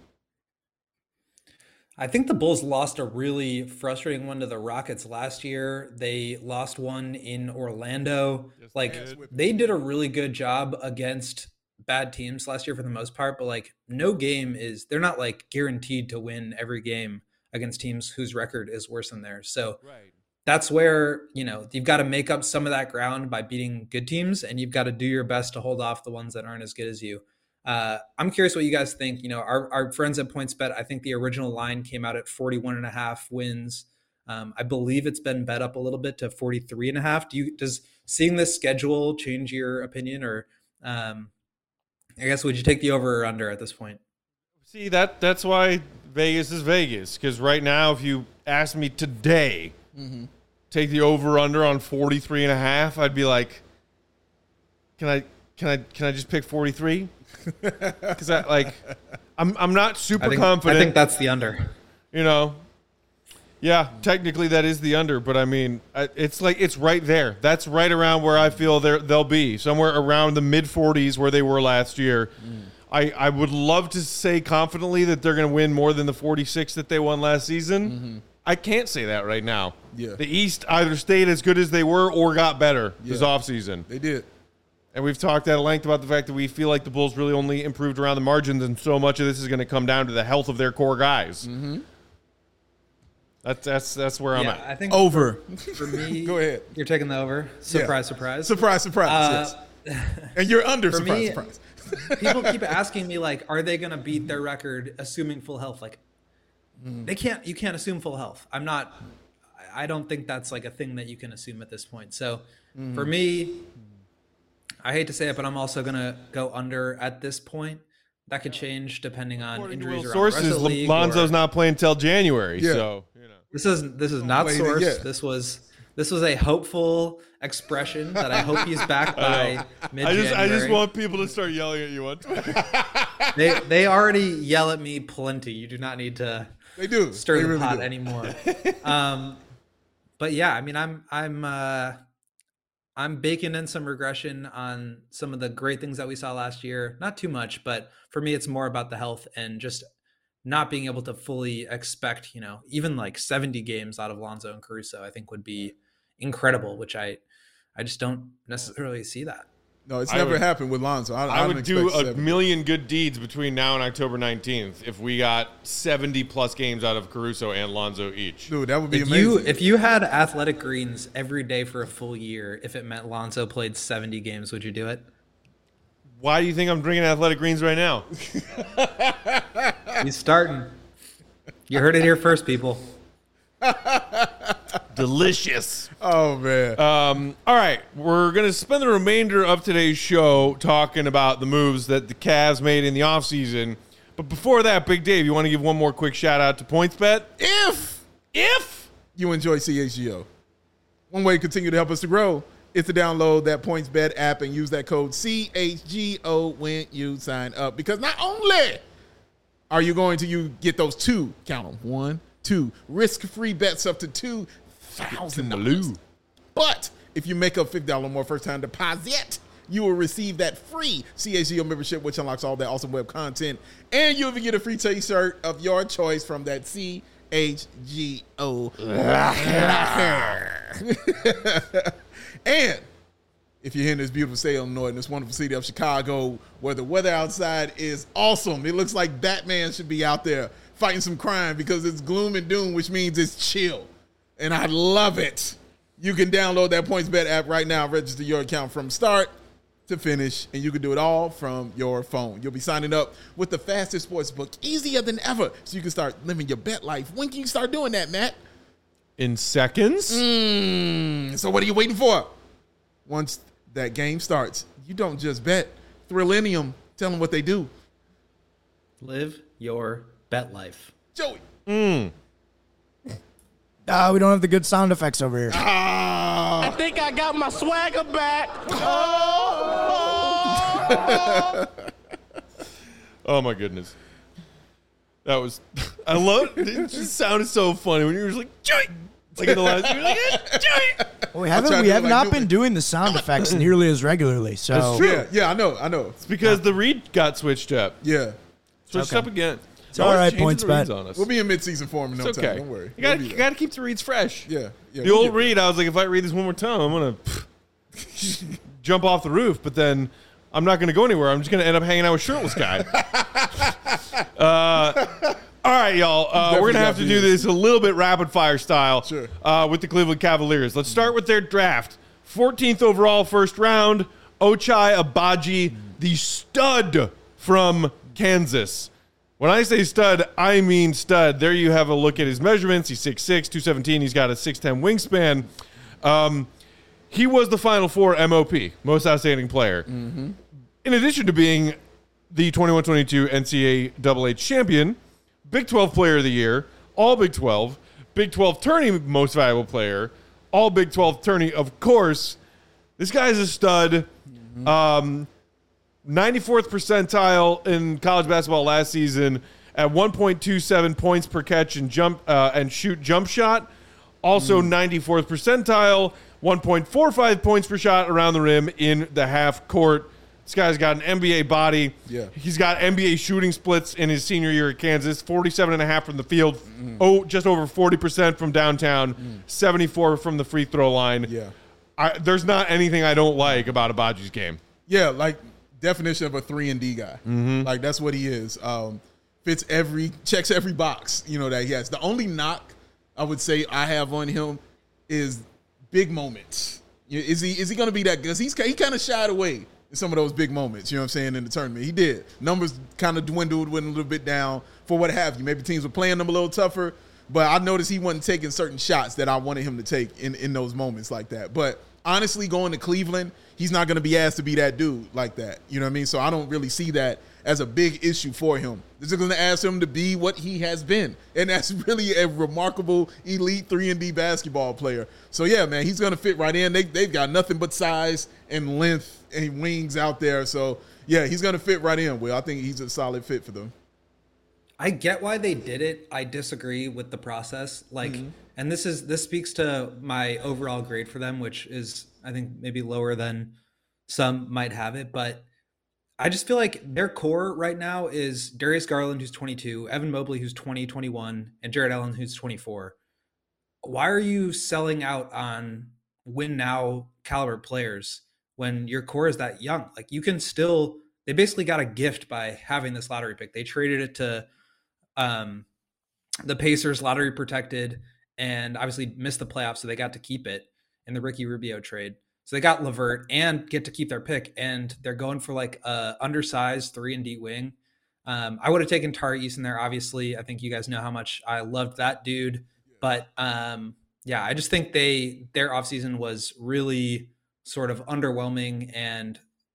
I think the Bulls lost a really frustrating one to the Rockets last year. They lost one in Orlando. Yes, like, they did. they did a really good job against bad teams last year for the most part, but like no game is, they're not like guaranteed to win every game against teams whose record is worse than theirs. So Right. that's where, you know, you've got to make up some of that ground by beating good teams, and you've got to do your best to hold off the ones that aren't as good as you. Uh, I'm curious what you guys think. You know, our, our friends at PointsBet, I think the original line came out at forty-one and a half wins. Um, I believe it's been bet up a little bit to forty-three and a half. Do you, does seeing this schedule change your opinion, or um, I guess would you take the over or under at this point? See, that that's why Vegas is Vegas. Because right now, if you ask me today, Mm-hmm. take the over-under on forty-three and a half, I'd be like, can I can I can I just pick forty-three? Because I like, I'm I'm not super I think, confident. I think that's the under. You know, yeah, technically that is the under, but I mean, I- it's like it's right there. That's right around where I feel they're, they'll be, somewhere around the mid forties where they were last year. Mm. I, I would love to say confidently that they're going to win more than the forty-six that they won last season. Mm-hmm. I can't say that right now. Yeah. The East either stayed as good as they were or got better this Yeah. offseason. They did. And we've talked at length about the fact that we feel like the Bulls really only improved around the margins, and so much of this is going to come down to the health of their core guys. Mm-hmm. That's that's that's where I'm Yeah, at. I think Over. for, for me, Go ahead. You're taking the over. Surprise, surprise. Surprise, surprise. Uh, yes. And you're under. for Surprise, me- surprise. People keep asking me like, are they going to beat their record assuming full health? Like, they can't. You can't assume full health. I'm not. I don't think that's like a thing that you can assume at this point. So, for me, I hate to say it, but I'm also going to go under at this point. That could change depending on According to injuries Will around the rest sources, of the league. Lonzo's or- not playing till January, Yeah. so you know. This is this is not Playing it source. yet. This was this was a hopeful expression that I hope he's back by mid I just I just January. want people to start yelling at you on Twitter. They they already yell at me plenty. You do not need to They do. stir They the really pot do. anymore. um, but yeah, I mean, I'm I'm uh, I'm baking in some regression on some of the great things that we saw last year. Not too much, but for me, it's more about the health and just not being able to fully expect, you know, even like seventy games out of Lonzo and Caruso. I think would be incredible, which I I just don't necessarily see that. No, it's I never would- happened with Lonzo. I, I don't would do expect a seven. million good deeds between now and October nineteenth if we got seventy plus games out of Caruso and Lonzo each. Dude, that would be If amazing. you if you had athletic greens every day for a full year, if it meant Lonzo played seventy games, would you do it? Why do you think I'm drinking athletic greens right now? He's starting. You heard it here first, people. Delicious. oh, man. Um, all right, we're going to spend the remainder of today's show talking about the moves that the Cavs made in the offseason. But before that, Big Dave, you want to give one more quick shout out to PointsBet? if If you enjoy C H G O, one way to continue to help us to grow is to download that PointsBet app and use that code C H G O when you sign up. Because not only are you going to you get those two, count them, one, two, risk-free bets up to two thousand dollars. But if you make a fifty dollars or more first-time deposit, you will receive that free C H G O membership, which unlocks all that awesome web content. And you'll even get a free t-shirt of your choice from that C H G O locker. And if you're in this beautiful state of Illinois, in this wonderful city of Chicago, where the weather outside is awesome, it looks like Batman should be out there fighting some crime because it's gloom and doom, which means it's chill. And I love it. You can download that PointsBet app right now, register your account from start to finish, and you can do it all from your phone. You'll be signing up with the fastest sports book, easier than ever, so you can start living your bet life. When can you start doing that, Matt? in seconds? Mm, so what are you waiting for? Once that game starts, you don't just bet. Thrillium, tell them what they do. Live your bet life. Joey. Mm. Uh, we don't have the good sound effects over here. Ah. I think I got my swagger back. Oh. Oh my goodness. That was, I love it. It just sounded so funny when you were just like, joy. Like in the last, you were like, eh, joy. Well, we haven't. We have like not Newman. been doing the sound effects nearly as regularly. So That's true. Yeah, yeah, I know, I know. It's because yeah. the read got switched up. Yeah, switched okay. up again. It's all right. Points bet. We'll be in mid-season form in no it's okay. time. Don't worry. You got we'll you got to keep the reads fresh. Yeah, yeah. The we'll old read, I was like, if I read this one more time, I'm gonna jump off the roof. But then I'm not gonna go anywhere. I'm just gonna end up hanging out with shirtless guy. uh, all right, y'all. Uh, we're gonna have to do this a little bit rapid fire style. Sure. Uh, with the Cleveland Cavaliers. Let's start with their draft. fourteenth overall, first round. Ochai Agbaji, the stud from Kansas. When I say stud, I mean stud. There you have a look at his measurements. He's six six, two seventeen. He's got a six ten wingspan. Um, he was the Final Four M O P, Most Outstanding Player. Mm-hmm. In addition to being the twenty-one twenty-two N C double A champion, Big twelve Player of the Year, All Big twelve, Big twelve Tourney Most Valuable Player, All Big twelve Tourney, of course. This guy's a stud. Mm-hmm. Um, ninety-fourth percentile in college basketball last season at one point two seven points per catch and jump uh, and shoot jump shot. Also mm. ninety-fourth percentile, one point four five points per shot around the rim in the half court. This guy's got an N B A body. Yeah. He's got N B A shooting splits in his senior year at Kansas, forty-seven and a half from the field, mm. oh, just over forty percent from downtown, mm. seventy-four from the free throw line. Yeah. I, there's not anything I don't like about Agbaji's game. Yeah, like definition of a three and D guy. Mm-hmm. Like that's what he is. Um, fits every, checks every box, you know, that he has. The only knock I would say I have on him is big moments. Is he is he going to be that good? Because he's he kind of shied away in some of those big moments, you know what I'm saying, in the tournament. He did. Numbers kind of dwindled, went a little bit down for what have you. Maybe teams were playing them a little tougher, but I noticed he wasn't taking certain shots that I wanted him to take in, in those moments like that. But honestly, going to Cleveland, he's not going to be asked to be that dude like that. You know what I mean? So I don't really see that as a big issue for him. This is going to ask him to be what he has been. And that's really a remarkable elite three and D basketball player. So, yeah, man, he's going to fit right in. They, they've got nothing but size and length and wings out there. So, yeah, he's going to fit right in, Will. I think he's a solid fit for them. I get why they did it. I disagree with the process. Like, mm-hmm. and this is this speaks to my overall grade for them, which is, I think, maybe lower than some might have it. But I just feel like their core right now is Darius Garland, who's twenty-two, Evan Mobley, who's twenty, twenty-one, and Jared Allen, who's twenty-four. Why are you selling out on win now caliber players when your core is that young? Like, you can still, they basically got a gift by having this lottery pick. They traded it to um, the Pacers, lottery protected, and obviously missed the playoffs, so they got to keep it in the Ricky Rubio trade. So they got LeVert and get to keep their pick, and they're going for like a undersized three and D wing. Um, I would have taken Tari Eason there. Obviously, I think you guys know how much I loved that dude. But um, yeah, I just think they their offseason was really sort of underwhelming and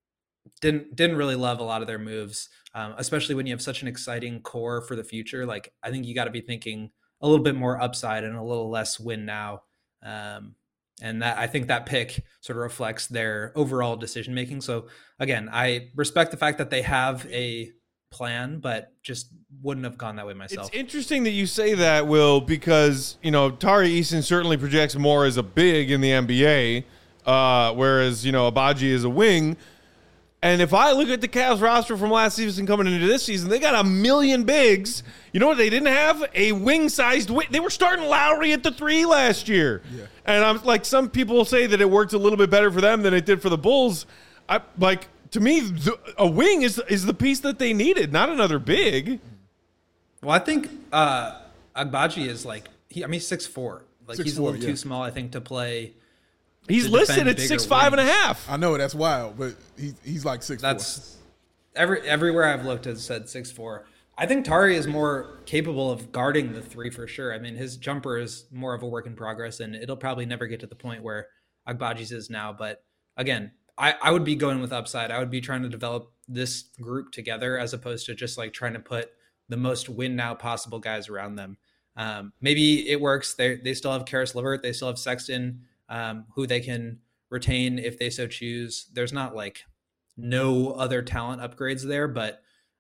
didn't didn't really love a lot of their moves, um, especially when you have such an exciting core for the future. Like, I think you got to be thinking a little bit more upside and a little less win now. Um, And that I think that pick sort of reflects their overall decision making. So again, I respect the fact that they have a plan, but just wouldn't have gone that way myself. It's interesting that you say that, Will, because you know Tari Eason certainly projects more as a big in the N B A, uh, whereas you know Agbaji is a wing. And if I look at the Cavs roster from last season coming into this season, they got a million bigs. You know what they didn't have? A wing-sized wing. They were starting Lowry at the three last year. Yeah. And I'm like, some people say that it worked a little bit better for them than it did for the Bulls. I like to me, the, a wing is is the piece that they needed, not another big. Well, I think uh, Agbaji is like he. I mean, six four. Like six he's four, a little yeah. too small, I think, to play. He's listed at six five and a half. I know that's wild, but he, he's like six four. That's every everywhere I've looked has said six four. I think Tari is more capable of guarding the three for sure. I mean, his jumper is more of a work in progress, and it'll probably never get to the point where Agbaji's is now. But again, I, I would be going with upside. I would be trying to develop this group together as opposed to just like trying to put the most win now possible guys around them. Um, maybe it works. They they still have Karis LeVert. They still have Sexton, um, who they can retain if they so choose. There's not like no other talent upgrades there, but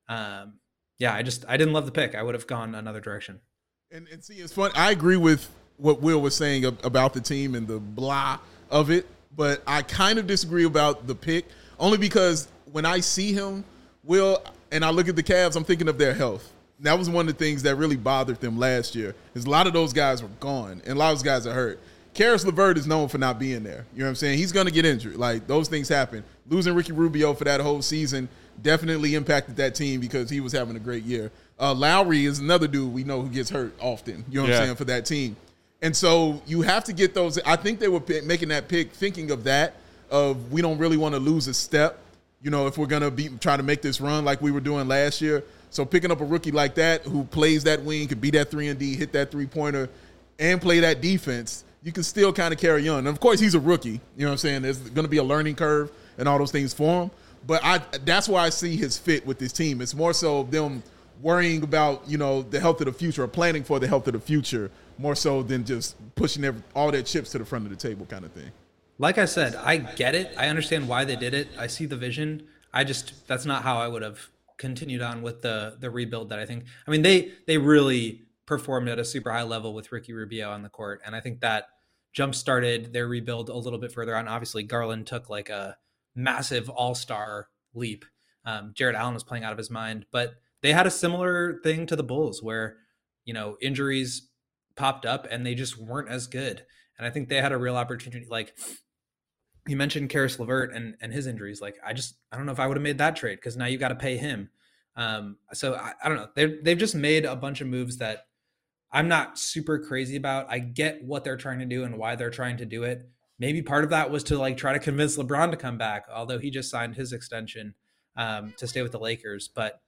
Um, yeah, I just I didn't love the pick. I would have gone another direction. And, and see, it's fun. I agree with what Will was saying about the team and the blah of it, but I kind of disagree about the pick, only because when I see him, Will, and I look at the Cavs, I'm thinking of their health. And that was one of the things that really bothered them last year, is a lot of those guys were gone, and a lot of those guys are hurt. Karis LeVert is known for not being there. You know what I'm saying? He's going to get injured. Like, those things happen. Losing Ricky Rubio for that whole season definitely impacted that team because he was having a great year. Uh, Lowry is another dude we know who gets hurt often, you know what yeah. I'm saying, for that team. And so you have to get those. I think they were p- making that pick thinking of that, of we don't really want to lose a step, you know, if we're going to be trying to make this run like we were doing last year. So picking up a rookie like that who plays that wing, could be that three and D, hit that three-pointer, and play that defense, you can still kind of carry on. And, of course, he's a rookie. You know what I'm saying? There's going to be a learning curve and all those things for him. But I that's why I see his fit with this team. It's more so them worrying about, you know, the health of the future or planning for the health of the future more so than just pushing every, all their chips to the front of the table kind of thing. Like I said, I get it. I understand why they did it. I see the vision. I just, that's not how I would have continued on with the the rebuild that I think, I mean, they they really performed at a super high level with Ricky Rubio on the court. And I think that jump-started their rebuild a little bit further on. Obviously, Garland took like a massive all-star leap. Um, Jared Allen was playing out of his mind, but they had a similar thing to the Bulls where, you know, injuries popped up and they just weren't as good. And I think they had a real opportunity. Like you mentioned Karis LeVert and, and his injuries. Like, I just, I don't know if I would have made that trade because now you got to pay him. Um, so I, I don't know. They've, they've just made a bunch of moves that I'm not super crazy about. I get what they're trying to do and why they're trying to do it. Maybe part of that was to like try to convince LeBron to come back, although he just signed his extension um, to stay with the Lakers. But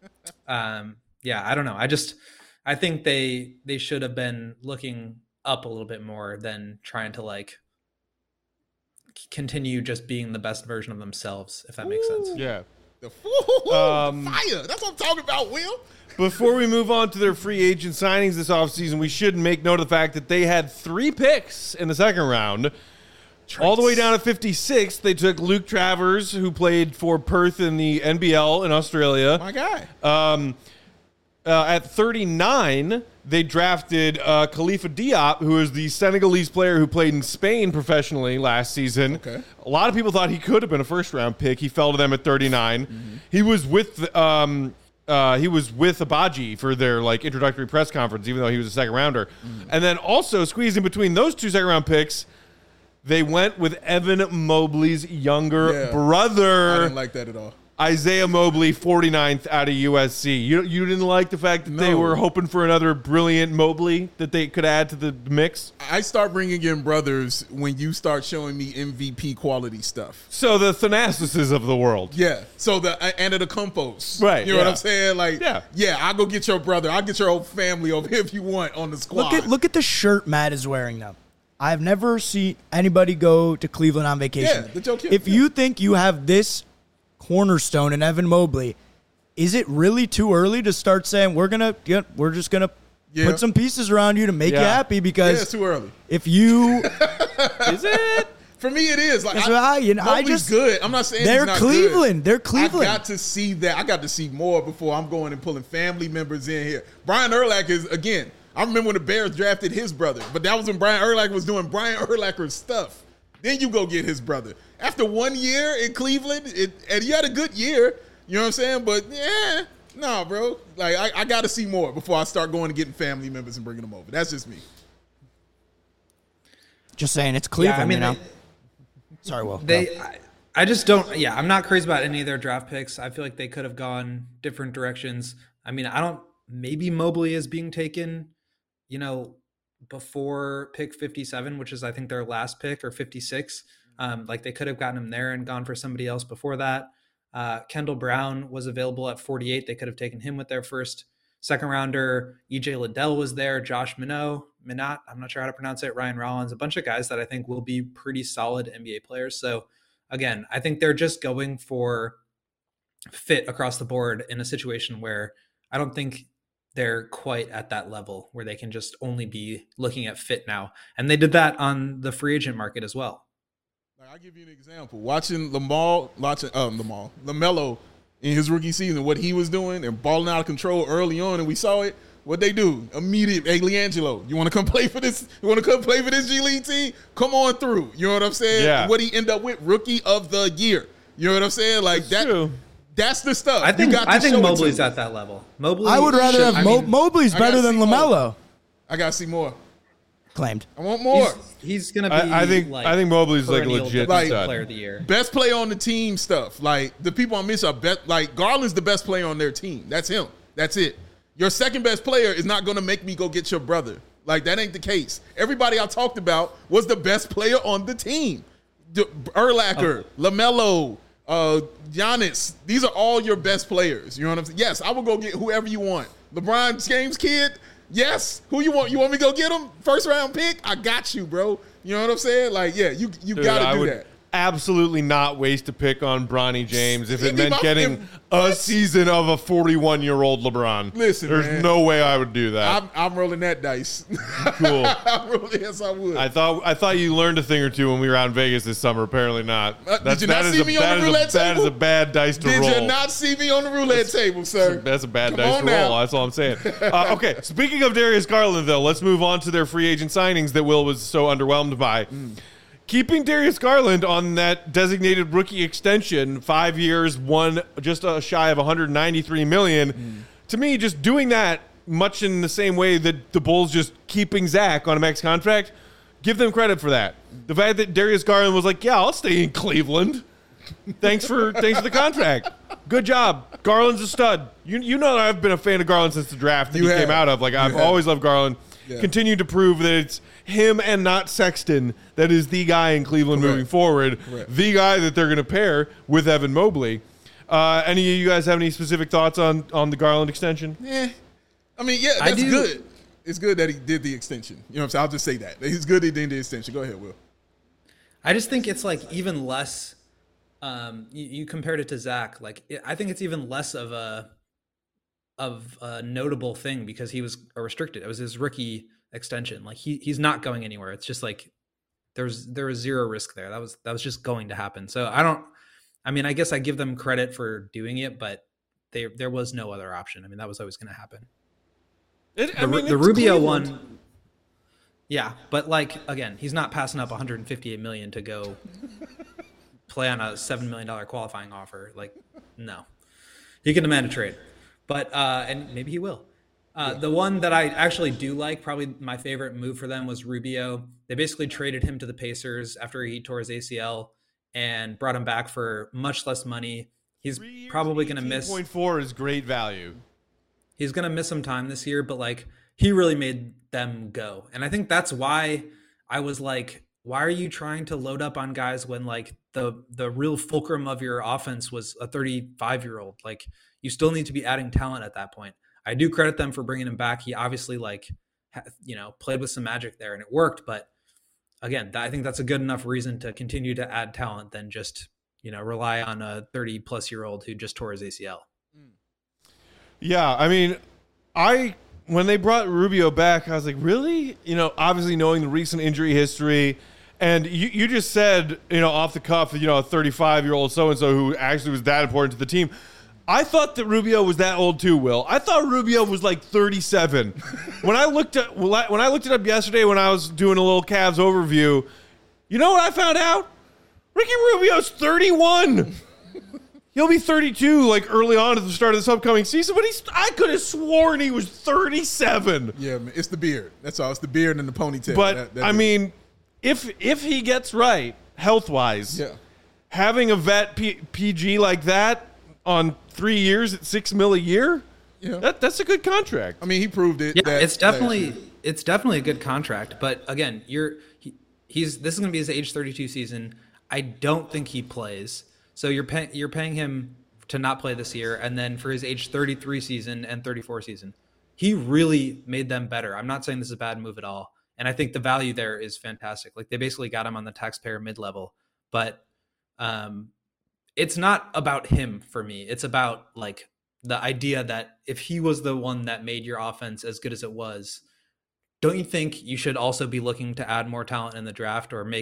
um, yeah, I don't know. I just, I think they, they should have been looking up a little bit more than trying to like continue just being the best version of themselves, if that makes sense. Yeah. The, ooh, um, the fire. That's what I'm talking about, Will. Before we move on to their free agent signings this offseason, we should make note of the fact that they had three picks in the second round. Trace. All the way down to fifty-six, they took Luke Travers, who played for Perth in the N B L in Australia. My guy. Um, uh, at thirty-nine, they drafted uh, Khalifa Diop, who is the Senegalese player who played in Spain professionally last season. Okay. A lot of people thought he could have been a first-round pick. He fell to them at thirty-nine. Mm-hmm. He was with um, uh, he was with Abaji for their like introductory press conference, even though he was a second rounder. Mm-hmm. And then also squeezing between those two second-round picks, they went with Evan Mobley's younger yeah. brother. I didn't like that at all. Isaiah Mobley, forty-ninth out of U S C. You you didn't like the fact that no. they were hoping for another brilliant Mobley that they could add to the mix? I start bringing in brothers when you start showing me M V P quality stuff. So the Thanasis of the world. Yeah. So the Antetokounmpos. Right. You know yeah. what I'm saying? Like, yeah. yeah, I'll go get your brother. I'll get your whole family over here if you want on the squad. Look at, look at the shirt Matt is wearing now. I've never seen anybody go to Cleveland on vacation. Yeah, the joke if yeah. you think you have this cornerstone in Evan Mobley, is it really too early to start saying we're gonna yeah, we're just gonna yeah. put some pieces around you to make yeah. you happy? Because yeah, it's too early. If you is it for me, it is like I, I, you know, I just good. I'm not saying they're he's not Cleveland. Good. They're Cleveland. I got to see that. I got to see more before I'm going and pulling family members in here. Brian Urlacher is again. I remember when the Bears drafted his brother, but that was when Brian Urlacher was doing Brian Urlacher's stuff. Then you go get his brother. After one year in Cleveland, it, and he had a good year, you know what I'm saying? But, yeah, no, nah, bro. Like, I, I got to see more before I start going and getting family members and bringing them over. That's just me. Just saying, it's Cleveland, yeah, I mean, you know? They, Sorry, Will. They, I, I just don't, yeah, I'm not crazy about any of their draft picks. I feel like they could have gone different directions. I mean, I don't, maybe Mobley is being taken, you know, before pick fifty-seven, which is I think their last pick, or fifty-six. Um, like they could have gotten him there and gone for somebody else before that. Uh, Kendall Brown was available at forty-eight. They could have taken him with their first second rounder. E J Liddell was there. Josh Minot, Minot, I'm not sure how to pronounce it. Ryan Rollins, a bunch of guys that I think will be pretty solid N B A players. So again, I think they're just going for fit across the board in a situation where I don't think they're quite at that level where they can just only be looking at fit now. And they did that on the free agent market as well. I'll give you an example. Watching Lamar, watching um, Lamar, LaMelo in his rookie season, what he was doing and balling out of control early on, and we saw it. What they do immediate? Hey, LiAngelo, you want to come play for this? You want to come play for this G League team? Come on through. You know what I'm saying? Yeah. What he end up with? Rookie of the year. You know what I'm saying? Like That's that. True. That's the stuff. I think you got to I think show Mobley's it to at that level. Mobley. I would rather should- have I Mo- mean, Mobley's I better gotta than see more. LaMelo. I gotta see more. Claimed. I want more. He's, he's gonna be. I, I think like, I think Mobley's like a perennial legit Like- defensive stud. player of the year. Best player on the team stuff. Like the people on miss are bet. Like Garland's the best player on their team. That's him. That's it. Your second best player is not going to make me go get your brother. Like that ain't the case. Everybody I talked about was the best player on the team. D- Urlacher, LaMelo, uh, Giannis. These are all your best players. You know what I'm saying? Yes, I will go get whoever you want. LeBron James kid. Yes. Who you want? You want me to go get him? First round pick? I got you, bro. You know what I'm saying? Like, yeah, you you Dude, got I to do would that. absolutely not waste a pick on Bronny James if it It'd be meant my- getting if- a season of a forty-one-year-old LeBron. Listen, there's man. no way I would do that. I'm, I'm rolling that dice. Cool. I'm rolling, yes, I would. I thought I thought you learned a thing or two when we were out in Vegas this summer. Apparently not. Uh, did That's, you not that is see a, me on that the is a- roulette That is table? a bad dice to Did roll. you not see me on the roulette table, sir? That's a bad Come dice on to now. roll. That's all I'm saying. Uh, okay, speaking of Darius Garland, though, let's move on to their free agent signings that Will was so underwhelmed by. Mm. Keeping Darius Garland on that designated rookie extension, five years, one just uh, shy of one hundred ninety-three million dollars. Mm. To me, just doing that much in the same way that the Bulls just keeping Zach on a max contract, give them credit for that. The fact that Darius Garland was like, "Yeah, I'll stay in Cleveland. Thanks for thanks for the contract. Good job. Garland's a stud. You you know that I've been a fan of Garland since the draft that You he have. came out of. Like I've have. always loved Garland. Yeah. Continue to prove that it's him and not Sexton that is the guy in Cleveland Correct. moving forward. Correct. The guy that they're going to pair with Evan Mobley. Uh, any of you guys have any specific thoughts on on the Garland extension? Yeah. I mean, yeah, I that's do- good. It's good that he did the extension. You know what I'm saying? I'll just say that. It's good he did the extension. Go ahead, Will. I just think it's like even less. Um, you, you compared it to Zach. Like it, I think it's even less of a of a notable thing because he was a restricted. It was his rookie extension. Like he he's not going anywhere. It's just like there's there was zero risk there. That was that was just going to happen. So I don't. I mean, I guess I give them credit for doing it, but they there was no other option. I mean, that was always going to happen. It, The, Ru- the Rubio one. Yeah, but like again, he's not passing up one hundred fifty-eight million dollars to go play on a seven million dollars qualifying offer. Like, no, he can demand a trade, but uh, and maybe he will. Uh, the one that I actually do like, probably my favorite move for them, was Rubio. They basically traded him to the Pacers after he tore his A C L and brought him back for much less money. He's probably going to miss. eighteen point four is great value. He's going to miss some time this year, but like he really made them go. And I think that's why I was like, why are you trying to load up on guys when like the the real fulcrum of your offense was a thirty-five year old? Like you still need to be adding talent at that point. I do credit them for bringing him back. He obviously like, ha- you know, played with some magic there and it worked. But again, I think that's a good enough reason to continue to add talent than just, you know, rely on a thirty plus year old who just tore his A C L. Yeah, I mean, I when they brought Rubio back, I was like, really? You know, obviously knowing the recent injury history, and you, you just said, you know, off the cuff, you know, a thirty-five-year-old so-and-so who actually was that important to the team. I thought that Rubio was that old too, Will. I thought Rubio was like thirty-seven. when I looked at when I looked it up yesterday when I was doing a little Cavs overview, you know what I found out? Ricky Rubio's thirty-one. He'll be thirty-two like early on at the start of this upcoming season, but he's I could have sworn he was thirty-seven. Yeah, man, it's the beard. That's all. It's the beard and the ponytail. But That- that I is- mean, if if he gets right health-wise, yeah, having a vet P- PG like that on three years at six mil a year, yeah. that that's a good contract. I mean, he proved it. Yeah, that it's last definitely year. it's definitely a good contract. But again, you're he, he's this is going to be his age thirty-two season. I don't think he plays, so you're paying you're paying him to not play this year, and then for his age thirty-three season and thirty-four season, he really made them better. I'm not saying this is a bad move at all, and I think the value there is fantastic. Like they basically got him on the taxpayer mid level, but um, it's not about him for me. It's about like the idea that if he was the one that made your offense as good as it was, don't you think you should also be looking to add more talent in the draft or make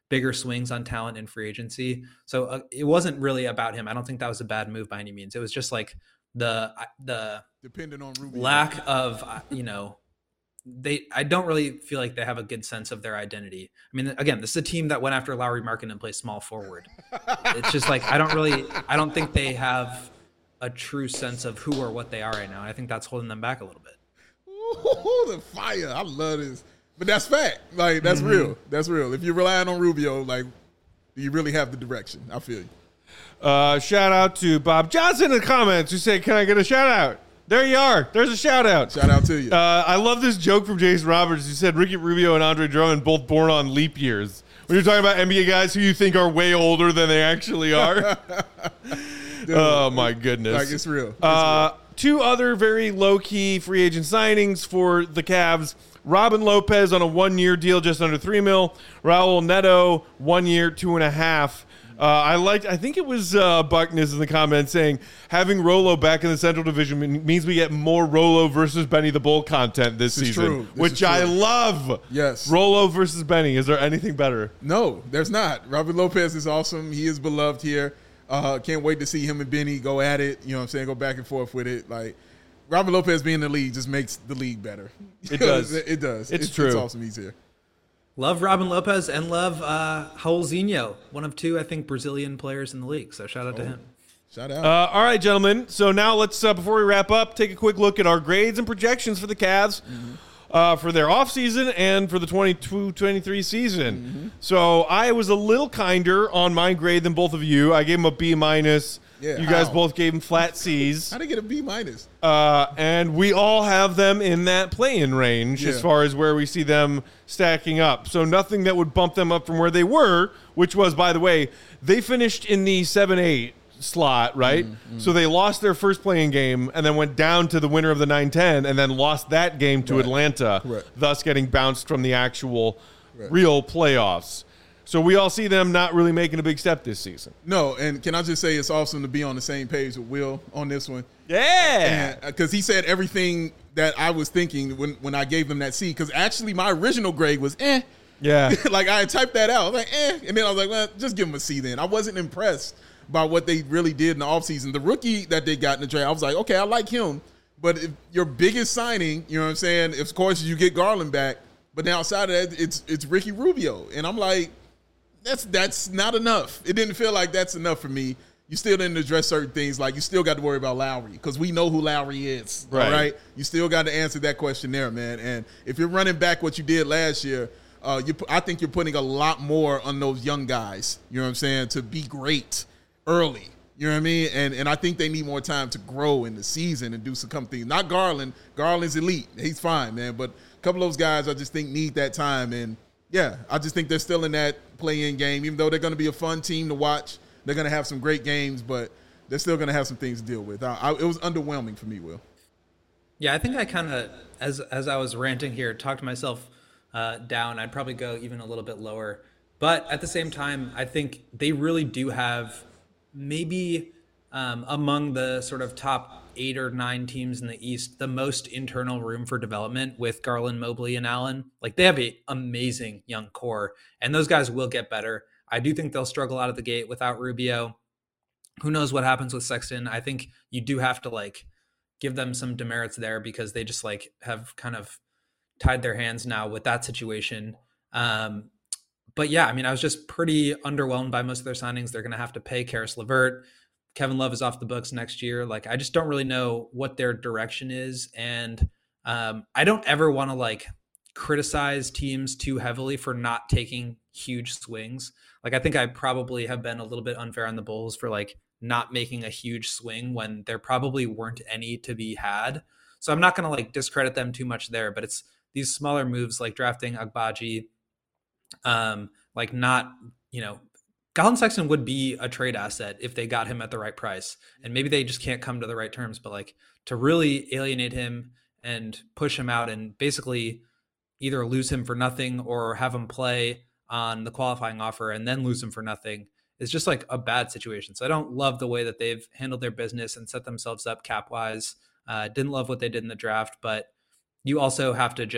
bigger swings on talent in free agency. So uh, it wasn't really about him. I don't think that was a bad move by any means. It was just like the the depending on Rubio. lack of, you know, they I don't really feel like they have a good sense of their identity. I mean, again, this is a team that went after Lauri Markkanen and plays small forward. It's just like I don't really I don't think they have a true sense of who or what they are right now. I think that's holding them back a little bit. Ooh, the fire. I love this. But that's fact. Like, that's mm-hmm. real. That's real. If you're relying on Rubio, like, do you really have the direction? I feel you. Uh, shout out to Bob Johnson in the comments who said, can I get a shout out? There you are. There's a shout out. Shout out to you. Uh, I love this joke from Jason Roberts who said Ricky Rubio and Andre Drummond both born on leap years. When you're talking about N B A guys who you think are way older than they actually are. Dude, oh, my goodness. Like, it's real. It's uh, real. Two other very low-key free agent signings for the Cavs. Robin Lopez on a one-year deal, just under three mil. Raul Neto, one year, two and a half. Uh, I liked. I think it was uh, Buckness in the comments saying having Rolo back in the Central Division means we get more Rolo versus Benny the Bull content this, this season, true. This which I true. love. Yes, Rolo versus Benny. Is there anything better? No, there's not. Robin Lopez is awesome. He is beloved here. Uh, can't wait to see him and Benny go at it. You know what I'm saying? Go back and forth with it. Like, Robin Lopez being in the league just makes the league better. It does. it does. It's, it's true. It's awesome he's here. Love Robin Lopez and love uh, Raulzinho, one of two, I think, Brazilian players in the league. So shout out oh, to him. Shout out. Uh, all right, gentlemen. So now let's, uh, before we wrap up, take a quick look at our grades and projections for the Cavs. Mm-hmm. Uh, for their offseason and for the twenty-two twenty-three season. Mm-hmm. So I was a little kinder on my grade than both of you. I gave them a B minus. Yeah, you how? guys both gave them flat C's. How'd they get a B minus? Uh, and we all have them in that play-in range yeah. as far as where we see them stacking up. So nothing that would bump them up from where they were, which was, by the way, they finished in the seven eight slot, right? Mm-hmm. So they lost their first playing game and then went down to the winner of the nine ten and then lost that game to right. Atlanta, Correct. thus getting bounced from the actual right. real playoffs. So we all see them not really making a big step this season. No, and can I just say it's awesome to be on the same page with Will on this one. Yeah. Because he said everything that I was thinking when, when I gave him that C. Because actually my original grade was eh. Yeah. Like I had typed that out. I was like, eh. And then I was like, well, just give him a C then. I wasn't impressed by what they really did in the offseason. The rookie that they got in the draft, I was like, okay, I like him. But if your biggest signing, you know what I'm saying, of course you get Garland back. But then outside of that, it's it's Ricky Rubio. And I'm like, that's that's not enough. It didn't feel like that's enough for me. You still didn't address certain things. Like, you still got to worry about Lowry because we know who Lowry is, right. all right? You still got to answer that question there, man. And if you're running back what you did last year, uh, you, I think you're putting a lot more on those young guys, you know what I'm saying, to be great early. You know what I mean? And and I think they need more time to grow in the season and do some couple things. Not Garland. Garland's elite. He's fine, man. But a couple of those guys I just think need that time. And, yeah, I just think they're still in that play-in game. Even though they're going to be a fun team to watch, they're going to have some great games, but they're still going to have some things to deal with. I, I, it was underwhelming for me, Will. Yeah, I think I kind of, as as I was ranting here, talked myself uh, down. I'd probably go even a little bit lower. But at the same time, I think they really do have maybe um, among the sort of top eight or nine teams in the East, the most internal room for development with Garland, Mobley, and Allen. Like, they have an amazing young core, and those guys will get better. I do think they'll struggle out of the gate without Rubio. Who knows what happens with Sexton? I think you do have to, like, give them some demerits there because they just, like, have kind of tied their hands now with that situation. Um, but yeah, I mean, I was just pretty underwhelmed by most of their signings. They're going to have to pay Karis LeVert. Kevin Love is off the books next year. Like, I just don't really know what their direction is. And um, I don't ever want to, like, criticize teams too heavily for not taking huge swings. Like, I think I probably have been a little bit unfair on the Bulls for, like, not making a huge swing when there probably weren't any to be had. So I'm not going to, like, discredit them too much there, but it's these smaller moves like drafting Agbaji, um, like not, you know, Colin Sexton would be a trade asset if they got him at the right price. And maybe they just can't come to the right terms, but, like, to really alienate him and push him out and basically either lose him for nothing or have him play on the qualifying offer and then lose him for nothing is just, like, a bad situation. So I don't love the way that they've handled their business and set themselves up cap wise. Uh, didn't love what they did in the draft, but you also have to just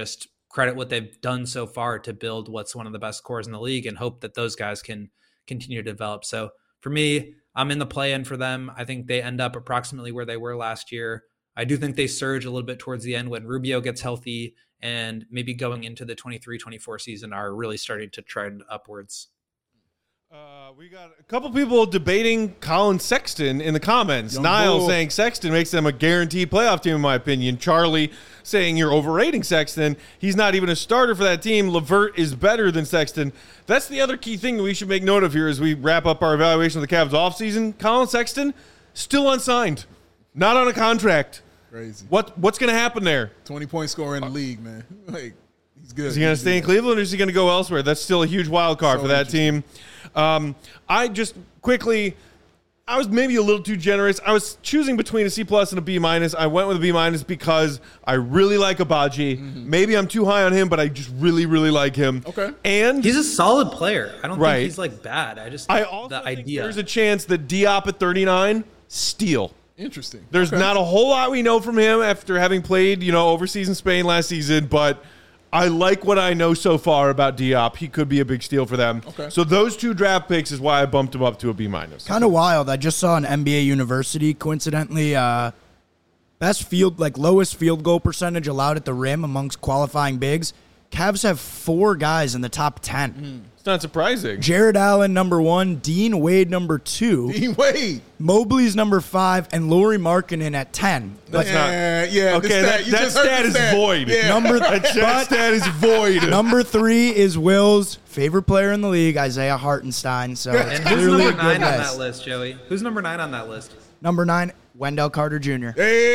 credit what they've done so far to build what's one of the best cores in the league and hope that those guys can continue to develop. So for me, I'm in the play-in for them. I think they end up approximately where they were last year. I do think they surge a little bit towards the end when Rubio gets healthy, and maybe going into the twenty-three twenty-four season are really starting to trend upwards. Uh, we got a couple people debating Colin Sexton in the comments. Young Niall bull. saying Sexton makes them a guaranteed playoff team, in my opinion. Charlie saying you're overrating Sexton. He's not even a starter for that team. Levert is better than Sexton. That's the other key thing that we should make note of here as we wrap up our evaluation of the Cavs offseason. Colin Sexton, still unsigned. Not on a contract. Crazy. What What's going to happen there? twenty-point scorer in the league, man. Like, he's good. Is he going to stay in Cleveland or is he going to go elsewhere? That's still a huge wild card So for that team. Um, I just quickly, I was maybe a little too generous. I was choosing between a C plus and a B minus. I went with a B minus because I really like Abaji. Mm-hmm. Maybe I'm too high on him, but I just really, really like him. Okay. And He's a solid player. I don't Right. think he's like bad. I just I also the think idea. there's a chance that Diop at thirty-nine, steal. Interesting. There's Okay. not a whole lot we know from him after having played, you know, overseas in Spain last season, but I like what I know so far about Diop. He could be a big steal for them. Okay. So those two draft picks is why I bumped him up to a B minus. Kind of wild. I just saw an N B A University, coincidentally, uh, best field, like lowest field goal percentage allowed at the rim amongst qualifying bigs. Cavs have four guys in the top ten. It's not surprising. Jared Allen, number one. Dean Wade, number two. Dean Wade. Mobley's number five. And Lauri Markkanen at ten. That's yeah, not. yeah. the Okay, stat, that, you that just heard stat the is stat. void. Yeah. Number That but stat is void. number three is Will's favorite player in the league, Isaiah Hartenstein. So it's and who's clearly a number good nine on list. that list, Joey? Who's number nine on that list? Number nine, Wendell Carter Junior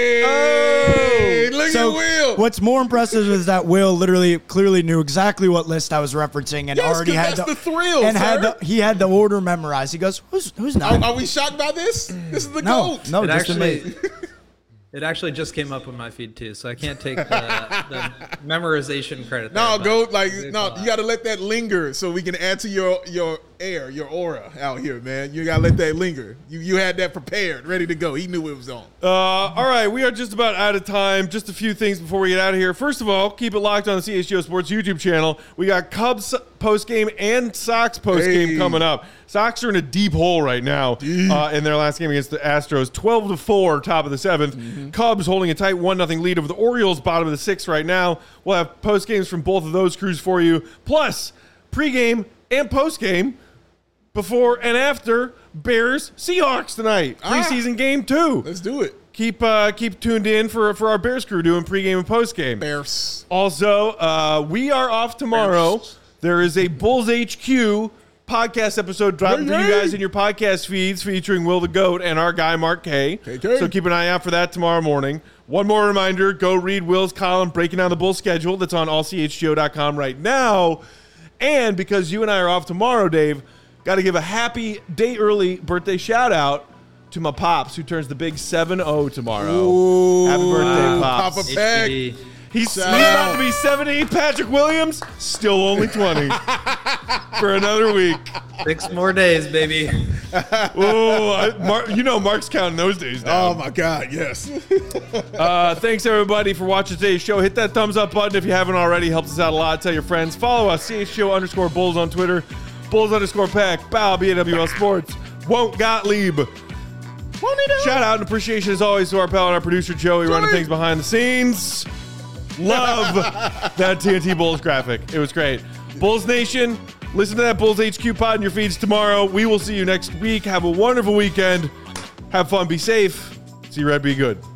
Hey, look So at Will. what's more impressive is that Will literally clearly knew exactly what list I was referencing and Yes, already 'cause had that's the, the thrill, and had sir. the, he had the order memorized. He goes, "Who's who's Are, nine?" are we shocked by this? This is the no, GOAT. no, it just actually, amazing. it actually just came up on my feed too, so I can't take the, the memorization credit. No, there, go but like good no. call You out. got to let that linger so we can add to your your air, your aura out here, man. You got to let that linger. You you had that prepared, ready to go. He knew it was on. Uh, all right, we are just about out of time. Just a few things before we get out of here. First of all, keep it locked on the C H G O Sports YouTube channel. We got Cubs post-game and Sox post-game Hey. coming up. Sox are in a deep hole right now uh, in their last game against the Astros. twelve to four, top of the seventh. Mm-hmm. Cubs holding a tight one nothing lead over the Orioles, bottom of the sixth right now. We'll have post-games from both of those crews for you, plus pre-game and post-game before and after Bears Seahawks tonight. Ah. Preseason game two. Let's do it. Keep uh, keep tuned in for for our Bears crew doing pregame and postgame. Bears. Also, uh, we are off tomorrow. Bears. There is a Bulls H Q podcast episode dropping Hey, for you hey. guys in your podcast feeds featuring Will the Goat and our guy Mark K. K K. So keep an eye out for that tomorrow morning. One more reminder, go read Will's column breaking down the Bulls schedule that's on all c h g o dot com right now. And because you and I are off tomorrow, Dave, got to give a happy day early birthday shout out to my pops who turns the big seven oh tomorrow. Ooh. Happy birthday, Wow. Pops. Papa Peck. H B D. He's, he's Shout about out. to be seventy. Patrick Williams, still only twenty for another week. Six more days, baby. Oh, I, Mark, you know Mark's counting those days Oh down. my God, yes. Uh, thanks, everybody, for watching today's show. Hit that thumbs up button if you haven't already. Helps us out a lot. Tell your friends. Follow us, C H G O underscore Bulls on Twitter. Bulls underscore Pack. Bow, B A W L Sports. Won't Gottlieb. Won't he do? Shout out and appreciation as always to our pal and our producer Joey running Joey. things behind the scenes. Love that T N T Bulls graphic. It was great. Bulls Nation, listen to that Bulls H Q pod in your feeds tomorrow. We will see you next week. Have a wonderful weekend. Have fun. Be safe. See Red. Be good.